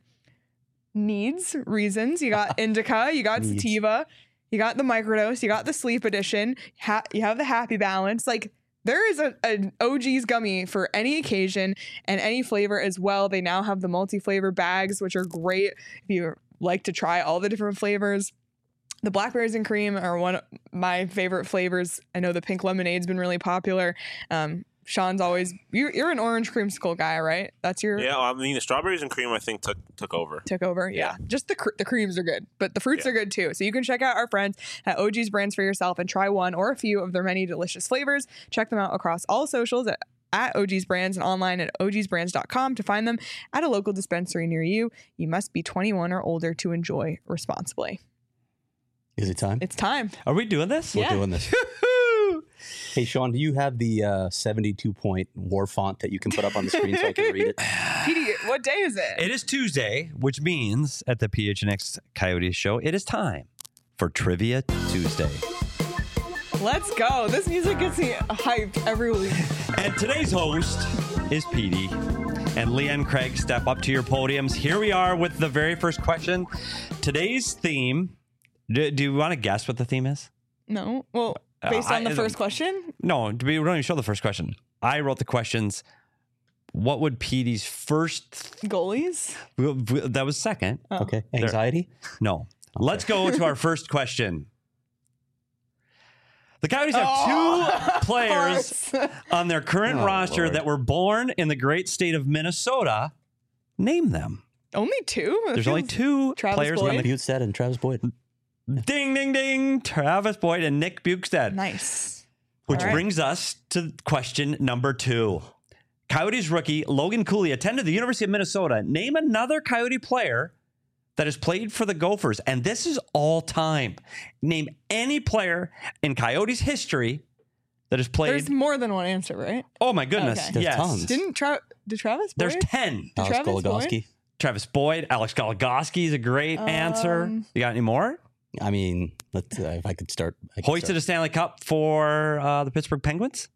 needs, reasons. You got indica, you got Needs. sativa, you got the microdose, you got the sleep edition, ha- you have the happy balance. Like, there is a, an O G's gummy for any occasion and any flavor as well. They now have the multi-flavor bags, which are great if you like to try all the different flavors. The blackberries and cream are one of my favorite flavors. I know the pink lemonade's been really popular. Um, Sean's always you're, you're an orange creamsicle guy, right? That's your Yeah, I mean the strawberries and cream I think took took over. took over. Yeah, Yeah. just the cr- the creams are good, but the fruits Yeah. are good too. So you can check out our friends at O G's Brands for yourself and try one or a few of their many delicious flavors. Check them out across all socials at at O G's Brands and online at O Gs brands dot com to find them at a local dispensary near you. You must be twenty-one or older to enjoy responsibly. Is it time? It's time. Are we doing this? We're yeah. doing this. Hey, Sean, do you have the uh, seventy-two point war font that you can put up on the screen so I can read it? Petey, what day is it? It is Tuesday, which means at the P H N X Coyotes show, it is time for Trivia Tuesday. Let's go. This music gets me hyped every week. And today's host is Petey. And Leah and Craig, step up to your podiums. Here we are with the very first question. Today's theme. Do, do you want to guess what the theme is? No. Well, Uh, based I- on the first question? No, do we we don't even show the first question. I wrote the questions. What would Petey's first? Goalies? That was second. Oh. Okay. Anxiety? No. Let's go to our first question. The Coyotes have Oh, two players Of course. on their current Oh, roster Lord. that were born in the great state of Minnesota. Name them. Only two? That There's only feels- two Travis players Boyd? on the Butstead and Travis Boyd. ding, ding, ding. Travis Boyd and Nick Bukestad. Nice. Which All right. brings us to question number two. Coyotes rookie Logan Cooley attended the University of Minnesota. Name another Coyote player that has played for the Gophers. And this is all time. Name any player in Coyotes history that has played. There's more than one answer, right? Oh my goodness. Okay. There's Yes. tons. Didn't Tra- did Travis Boyd? There's ten. Did Alex Travis Boyd? Goligoski. Travis Boyd, Alex Goligoski is a great answer. Um, You got any more? I mean, let's, uh, if I could start. I could Hoisted start. a Stanley Cup for uh, the Pittsburgh Penguins.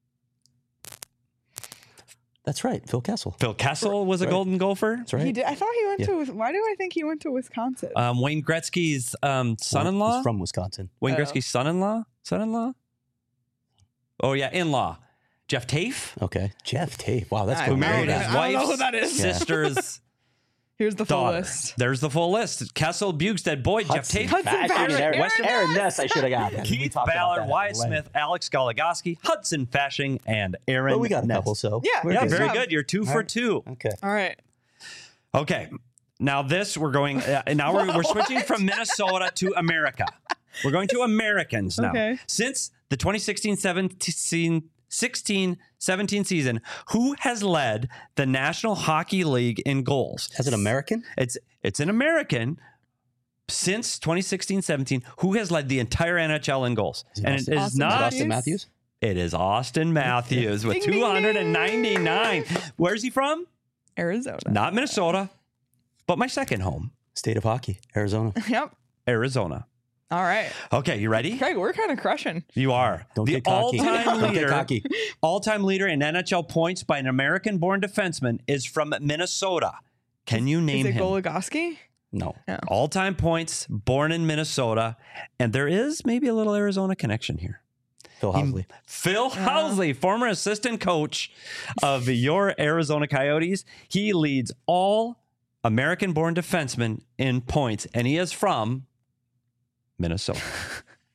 That's right. Phil Kessel. Phil Kessel was a Right. Golden Gopher. That's right. He did. I thought he went Yeah. to. Why do I think he went to Wisconsin? Um, Wayne Gretzky's um, son-in-law. He's from Wisconsin. Wayne Oh. Gretzky's son-in-law. Son-in-law. Oh yeah, in-law. Jeff Tafe, Okay. Jeff Tate. Wow, that's I who going don't way married know his that- I don't know wife's who that is. Yeah. sister's Here's the full daughter. list. There's the full list: Kessel, Bukestad, Boyd, Hudson Jeff Tafe, Hudson Fashing Fashing, and Aaron, Aaron Aaron Ness. Ness. I should have got. We Keith talked about Ballard, that Wyatt at length. Smith, Alex Goligoski, Hudson Fashing, and Aaron. But we got a Ness. couple, so Yeah, we're Yeah, Good very job. good. You're two for right. two. Okay. All right. Okay. Now this we're going. Uh, now we're, we're switching from Minnesota to America. We're going to Americans now. Okay. Since the twenty sixteen seventeen sixteen seventeen season, who has led the National Hockey League in goals? As an American, It's it's an American. Since twenty sixteen seventeen, who has led the entire N H L in goals? Is it And Austin- it is Austin not. Austin Matthews. It is Austin Matthews with Ding, ding, two hundred ninety-nine. Where's he from? Arizona. Not Minnesota, but my second home, State of hockey, Arizona. Yep. Arizona. All right. Okay, you ready? Craig, we're kind of crushing. You are. Don't the get cocky. all-time Don't get leader, cocky. all-time leader in N H L points by an American-born defenseman is from Minnesota. Can you name Is it him? Goligoski? No. All-time points, born in Minnesota, and there is maybe a little Arizona connection here. Phil Housley. Phil Housley, former assistant coach of your Arizona Coyotes. He leads all American-born defensemen in points, and he is from Minnesota.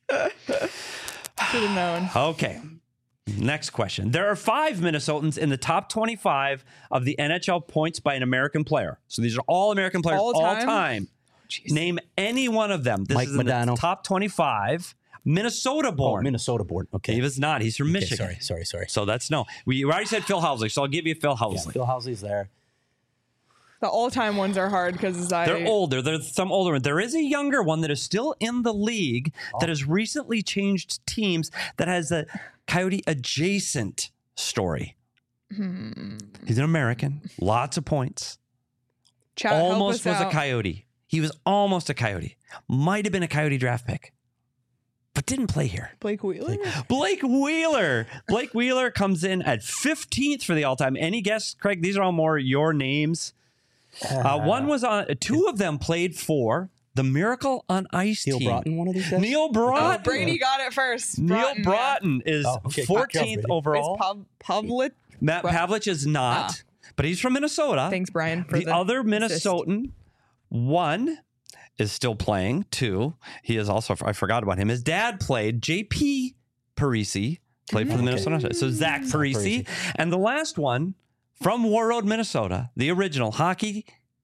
Should have known. Okay. Next question. There are five Minnesotans in the top twenty-five of the N H L points by an American player. So these are all American players all, All time. time? Jeez. Name any one of them. This Mike is in Modano. the top twenty-five. Minnesota Oh, born. Minnesota born. Okay. He was not. He's from Okay, Michigan. sorry, sorry, sorry. So that's no. We already said Phil Housley, so I'll give you Phil Yeah, Housley. Phil Housley's there. The all-time ones are hard because I. They're older. There's some older one. There is a younger one that is still in the league Oh. that has recently changed teams that has a Coyote adjacent story. Hmm. He's an American. Lots of points. Chat, help Almost us was a out. Coyote. He was almost a Coyote. Might have been a Coyote draft pick, but didn't play here. Blake Wheeler. Blake Wheeler. Blake Wheeler comes in at fifteenth for the all-time. Any guess, Craig? These are all more your names. Uh, one was on. Two of them played for the Miracle on Ice Neil team. Broughton, one of these guys? Neil Oh, Broughton. Brady got it first. Neil Broughton, Broughton is Oh, okay. fourteenth Brady. overall. Yeah. Is Pav- Pavlik. Matt Bra- Pavlich is not, Ah. but he's from Minnesota. Thanks, Brian. For the, the other assist. Minnesotan, one is still playing. Two, he is also. I forgot about him. His dad played. J P Parisi played for the Okay. Minnesota. So Zach Parisi, Parisi. and the last one from War Road, Minnesota, the original Hockey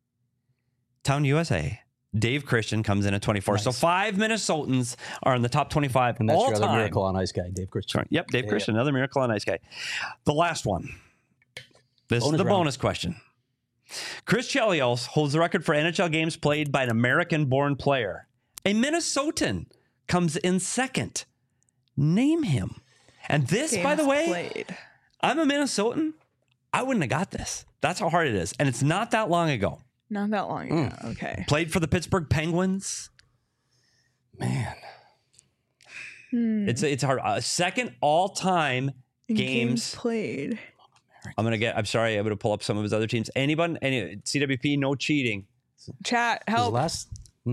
Town U S A. Dave Christian comes in at twenty-four. So Nice. five Minnesotans are in the top twenty-five And that's all your other time. Miracle on Ice guy, Dave Christian. Sorry. Yep, Dave Yeah, Christian, another Miracle on Ice guy. The last one. This Bonus is the round. bonus question. Chris Chelios holds the record for N H L games played by an American-born player. A Minnesotan comes in second. Name him. And this, by the Games way, played. I'm a Minnesotan. I wouldn't have got this. That's how hard it is. And it's not that long ago. Not that long ago. Mm. Okay. Played for the Pittsburgh Penguins. Man. Hmm. It's it's hard. Uh, second all-time In games played. I'm gonna get. I'm sorry. I'm gonna pull up some of his other teams. Anyone? Any C W P? No cheating. Chat, His help. last,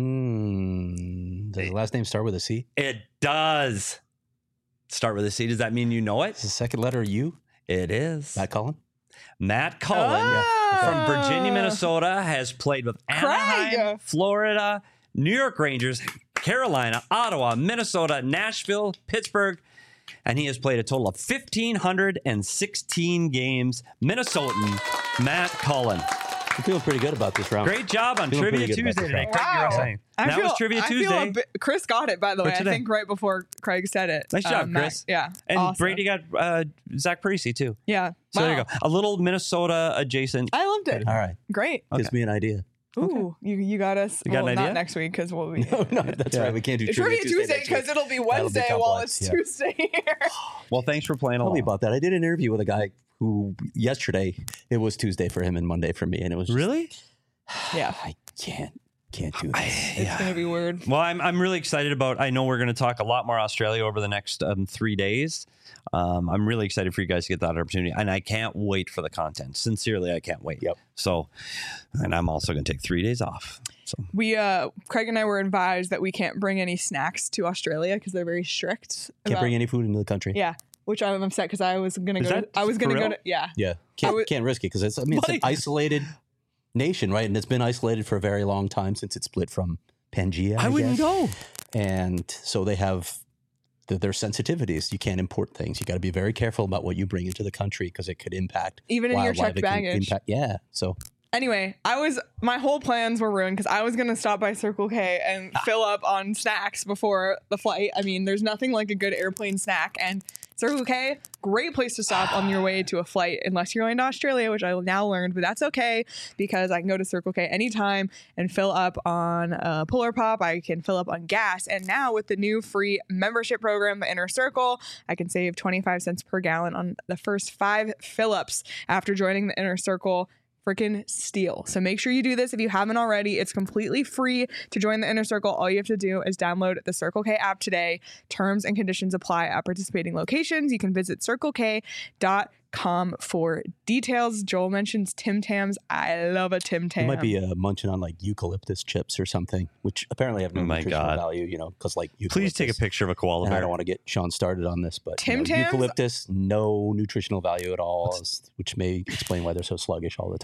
mm, does his last name start with a C? It does start with a C. Does that mean you know Is it? the second letter U? It is. Matt Cullen? Matt Cullen Oh. from Virginia, Minnesota, has played with Anaheim, Craig. Florida, New York Rangers, Carolina, Ottawa, Minnesota, Nashville, Pittsburgh, and he has played a total of one thousand five hundred sixteen games. Minnesotan Matt Cullen. I'm feeling pretty good about this round. Great job on Feeling Trivia pretty good about Tuesday this today. round. Craig, you were Wow. saying. I that feel, was Trivia I feel Tuesday. a bit- Chris got it, by the For way. I today. think right before Craig said it. Nice job, Um, Matt- Chris. Yeah. And awesome. Brady got uh, Zach Parisi, too. Yeah. So there you Wow. go. A little Minnesota adjacent. I loved it. All right. Great. Gives me an idea. Ooh, you you got us. You got well, an not idea? next week because we'll be. No, no, that's Yeah. right. We can't do It's Trivia Trivia Tuesday next week. because it'll be That'll be Wednesday while complex, it's yeah. Tuesday here. Well, thanks for playing Tell along. me about that. I did an interview with a guy who yesterday it was Tuesday for him and Monday for me, and it was just, Really? Yeah. I can't can't do this. It's gonna be weird. Well, I'm I'm really excited about. I know we're going to talk a lot more Australia over the next um, three days. Um, I'm really excited for you guys to get that opportunity, and I can't wait for the content. Sincerely, I can't wait. Yep. So, and I'm also going to take three days off. So We uh Craig and I were advised that we can't bring any snacks to Australia because they're very strict. Can't about- bring any food into the country. Yeah, which I'm upset because I was gonna Is go. that To, I was gonna for go real? to. Yeah. Yeah, can't, would- can't risk it because it's. I mean, it's an Buddy. isolated nation, right? And it's been isolated for a very long time since it split from Pangea. I, I wouldn't guess. go. And so they have the, their sensitivities. You can't import things. You got to be very careful about what you bring into the country because it could impact Even in your wildlife. checked It can baggage. Impact, yeah. So Anyway, I was my whole plans were ruined because I was gonna stop by Circle K and fill up on snacks before the flight. I mean, there's nothing like a good airplane snack, and Circle K, great place to stop on your way to a flight, unless you're going to Australia, which I now learned, but that's okay because I can go to Circle K anytime and fill up on uh, Polar Pop. I can fill up on gas, and now with the new free membership program, the Inner Circle, I can save twenty-five cents per gallon on the first five fill-ups after joining the Inner Circle. Freaking steal. So make sure you do this if you haven't already. It's completely free to join the Inner Circle. All you have to do is download the Circle K app today. Terms and conditions apply at participating locations. You can visit circle k dot com for details. Joel mentions Tim Tams. I love a Tim Tam. you might be uh, munching on like eucalyptus chips or something, which apparently have no Oh my nutritional God. value. You know, because like Please take a eucalyptus- picture of a koala And I bear. don't want to get Sean started on this, but you Tim know, Tams? eucalyptus, no nutritional value at all, which may explain why they're so sluggish all the time.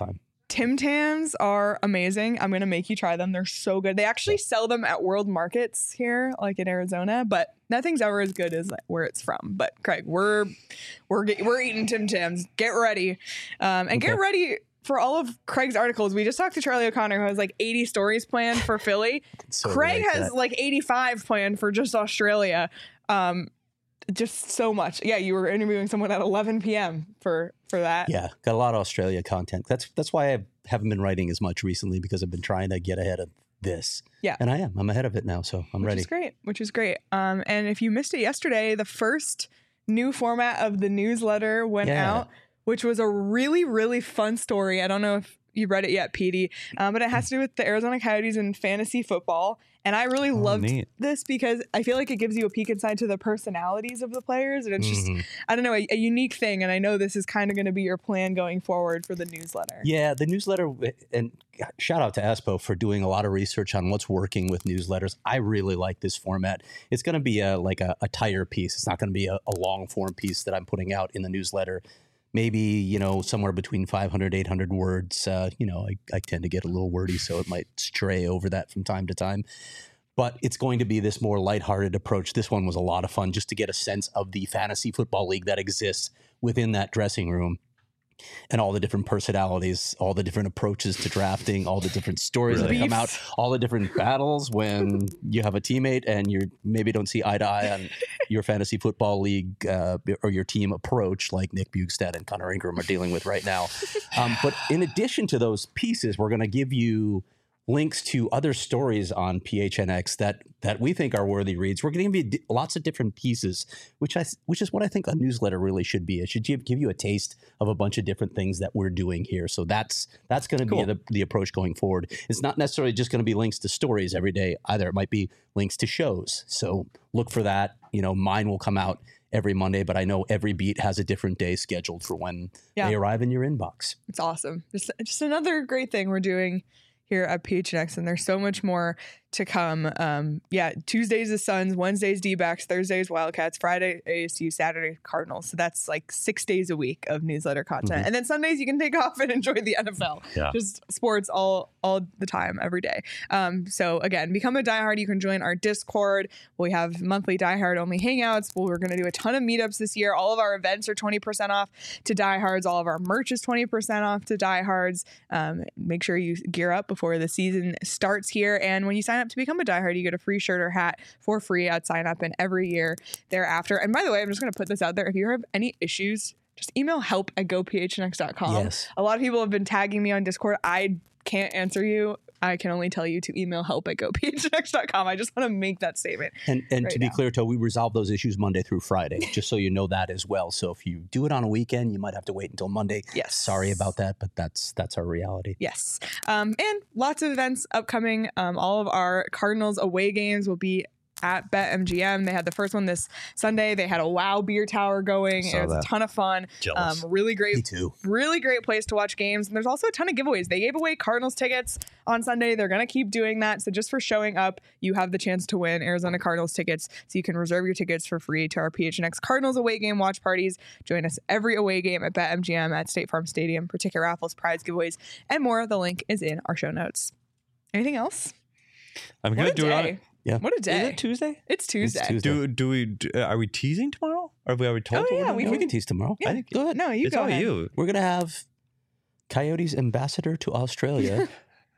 Tim Tams are amazing. I'm going to make you try them. They're so good. They actually sell them at world markets here, like in Arizona, but nothing's ever as good as where it's from. But Craig, we're we're we're eating Tim Tams. Get ready. Um, and Okay. get ready for all of Craig's articles. We just talked to Charlie O'Connor, who has like eighty stories planned for Philly. So Craig relate to has that. like eighty-five planned for just Australia. Um, just so much. Yeah, you were interviewing someone at eleven p.m. for for that. Yeah, got a lot of Australia content. That's that's why I haven't been writing as much recently, because I've been trying to get ahead of this. Yeah. And I am. I'm ahead of it now, so I'm which ready. is great. Which is great. Um, and if you missed it yesterday, the first new format of the newsletter went Yeah. out, which was a really, really fun story. I don't know if you read it yet, Petey, um, but it has to do with the Arizona Coyotes and fantasy football. And I really loved neat. this because I feel like it gives you a peek inside to the personalities of the players. And it's just, Mhm. I don't know, a, a unique thing. And I know this is kind of going to be your plan going forward for the newsletter. Yeah, the newsletter, and shout out to Espo for doing a lot of research on what's working with newsletters. I really like this format. It's going to be a like a, a tighter piece. It's not going to be a, a long form piece that I'm putting out in the newsletter. Maybe, you know, somewhere between five hundred, eight hundred words. Uh, you know, I, I tend to get a little wordy, so it might stray over that from time to time. But it's going to be this more lighthearted approach. This one was a lot of fun just to get a sense of the fantasy football league that exists within that dressing room and all the different personalities, all the different approaches to drafting, all the different stories Really? that come Beefs. out, all the different battles when you have a teammate and you maybe don't see eye to eye on your fantasy football league uh, or your team approach, like Nick Bugstad and Connor Ingram are dealing with right now. Um, but in addition to those pieces, we're going to give you links to other stories on P H N X that that we think are worthy reads. We're going to give you lots of different pieces, which I which is what I think a newsletter really should be. It should give, give you a taste of a bunch of different things that we're doing here. So that's that's going to Cool. be the, the approach going forward. It's not necessarily just going to be links to stories every day either. It might be links to shows. So look for that. You know, mine will come out every Monday, but I know every beat has a different day scheduled for when Yeah. they arrive in your inbox. It's awesome. Just, just another great thing we're doing here at P H N X, and there's so much more to come. Um, yeah, Tuesdays the Suns, Wednesdays D-backs, Thursdays Wildcats, Friday A S U, Saturday Cardinals. So that's like six days a week of newsletter content. Mhm. And then Sundays you can take off and enjoy the N F L. Yeah. Just sports all all the time, every day. Um, so again, become a diehard. You can join our Discord. We have monthly diehard only hangouts. Well, we're going to do a ton of meetups this year. All of our events are twenty percent off to diehards. All of our merch is twenty percent off to diehards. Um, make sure you gear up before the season starts here. And when you sign up to become a diehard, you get a free shirt or hat for free at sign up and every year thereafter. And by the way, I'm just going to put this out there. If you have any issues, just email help at go p h n x dot com. Yes. A lot of people have been tagging me on Discord. I can't answer you. I can only tell you to email help at go p h n x dot com. I just want to make that statement. And and right to be now. clear, To, we resolve those issues Monday through Friday, just so you know that as well. So if you do it on a weekend, you might have to wait until Monday. Yes. Sorry about that, but that's that's our reality. Yes. Um, and lots of events upcoming. Um, all of our Cardinals away games will be at BetMGM. They had the first one this Sunday. They had a WoW beer tower going. Saw It was that. a ton of fun. Jealous. Um, really great Me too. really great place to watch games. And there's also a ton of giveaways. They gave away Cardinals tickets on Sunday. They're going to keep doing that. So just for showing up, you have the chance to win Arizona Cardinals tickets. So you can reserve your tickets for free to our P H N X Cardinals away game watch parties. Join us every away game at BetMGM at State Farm Stadium for ticket raffles, prize giveaways, and more. The link is in our show notes. Anything else? I'm What gonna a do it on. day. Yeah. What a day. Is it Tuesday? It's Tuesday. Tuesday. Do do we? Do, uh, are we teasing tomorrow? Or have we already told? Oh, what we're yeah, doing we Yeah, tomorrow? we can tease tomorrow. Yeah. I think, go ahead. No, you it's go all ahead. you. We're gonna have Coyotes ambassador to Australia.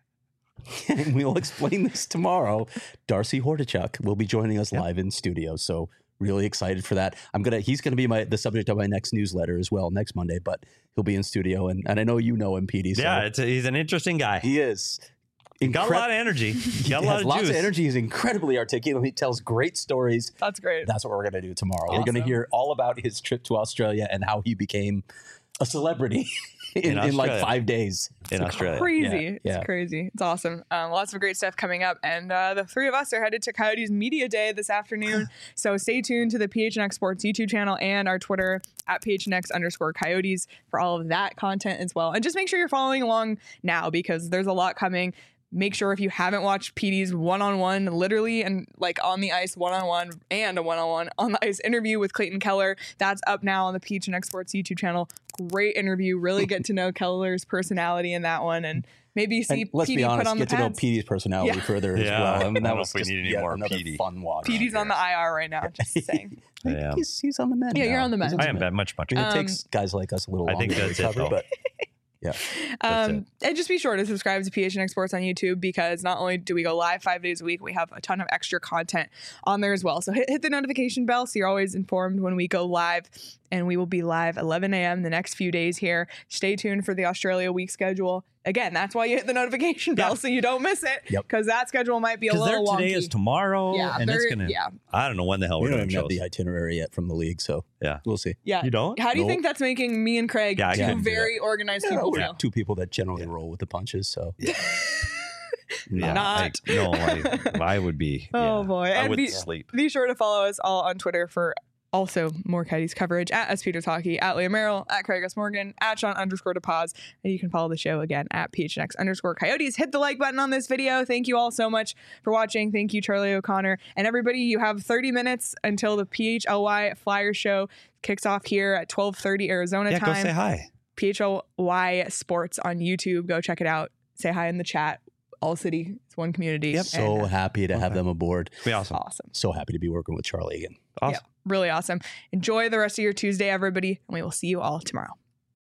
And we'll explain this tomorrow. Darcy Hordichuk will be joining us Yep. live in studio. So really excited for that. I'm gonna he's gonna be my the subject of my next newsletter as well next Monday, but he'll be in studio and, and I know you know him, P D. So Yeah, it's a, he's an interesting guy. he is. Got a Incre- lot of energy. He Got a lot has of lots juice. of energy. He's incredibly articulate. He tells great stories. That's great. That's what we're going to do tomorrow. We're going to Awesome. hear all about his trip to Australia and how he became a celebrity in, In in like Australia. five days. in Australia. Crazy. Yeah, It's yeah. crazy. It's awesome. Um, lots of great stuff coming up. And uh, the three of us are headed to Coyotes Media Day this afternoon. So stay tuned to the P H N X Sports YouTube channel and our Twitter at P H N X underscore Coyotes for all of that content as well. And just make sure you're following along now because there's a lot coming. Make sure if you haven't watched P D's one-on-one, literally and like on the ice one-on-one and a one-on-one on the ice interview with Clayton Keller, that's up now on the P H N X Sports YouTube channel. Great interview. Really get to know Keller's personality in that one, and maybe see And let's P D be honest, put on get the to know pads. P D's personality Yeah. further as Yeah. well. I I mean, don't that know was if we just need any yet more another P D. fun watch. P D's on the I R right now. Just saying. Yeah. He's, he's on the mend. Yeah, now. you're on the He's mend. I am that much, much. I mean, it Um, takes guys like us a little I longer think to that's it, recover, though. but yeah. That's Um, and just be sure to subscribe to P H N X Sports on YouTube, because not only do we go live five days a week, we have a ton of extra content on there as well. So hit, hit the notification bell so you're always informed when we go live. And we will be live eleven a.m. the next few days here. Stay tuned for the Australia week schedule. Again, that's why you hit the notification bell Yeah. so you don't miss it. Yep. Because that schedule might be a Because their little wonky. today is tomorrow, Yeah, and it's they're- gonna. yeah. I don't know when the hell We we're don't doing even have shows. the itinerary yet from the league, so Yeah. we'll see. Yeah. You don't? How do you Nope. think that's making me and Craig Yeah, I two couldn't do very organized Yeah, people we're feel? two people that generally roll with the punches, so Yeah, Not. I, no, I, I would be. Oh, yeah. boy. I And would be- sleep. Be sure to follow us all on Twitter for also more Coyotes coverage at S. Peters Hockey, at Leah Merrill, at Craig S. Morgan, at Sean underscore DePaz. And you can follow the show again at P H N X underscore Coyotes. Hit the like button on this video. Thank you all so much for watching. Thank you, Charlie O'Connor. And everybody, you have thirty minutes until the P H L Y Flyer Show kicks off here at twelve thirty Arizona Yeah, time. go say hi. P H L Y Sports on YouTube. Go check it out. Say hi in the chat. All city. It's one community. Yep. so And, uh, happy to have Okay. them aboard. Be awesome. awesome. So happy to be working with Charlie again. Awesome. Yeah, really awesome. Enjoy the rest of your Tuesday, everybody, and we will see you all tomorrow.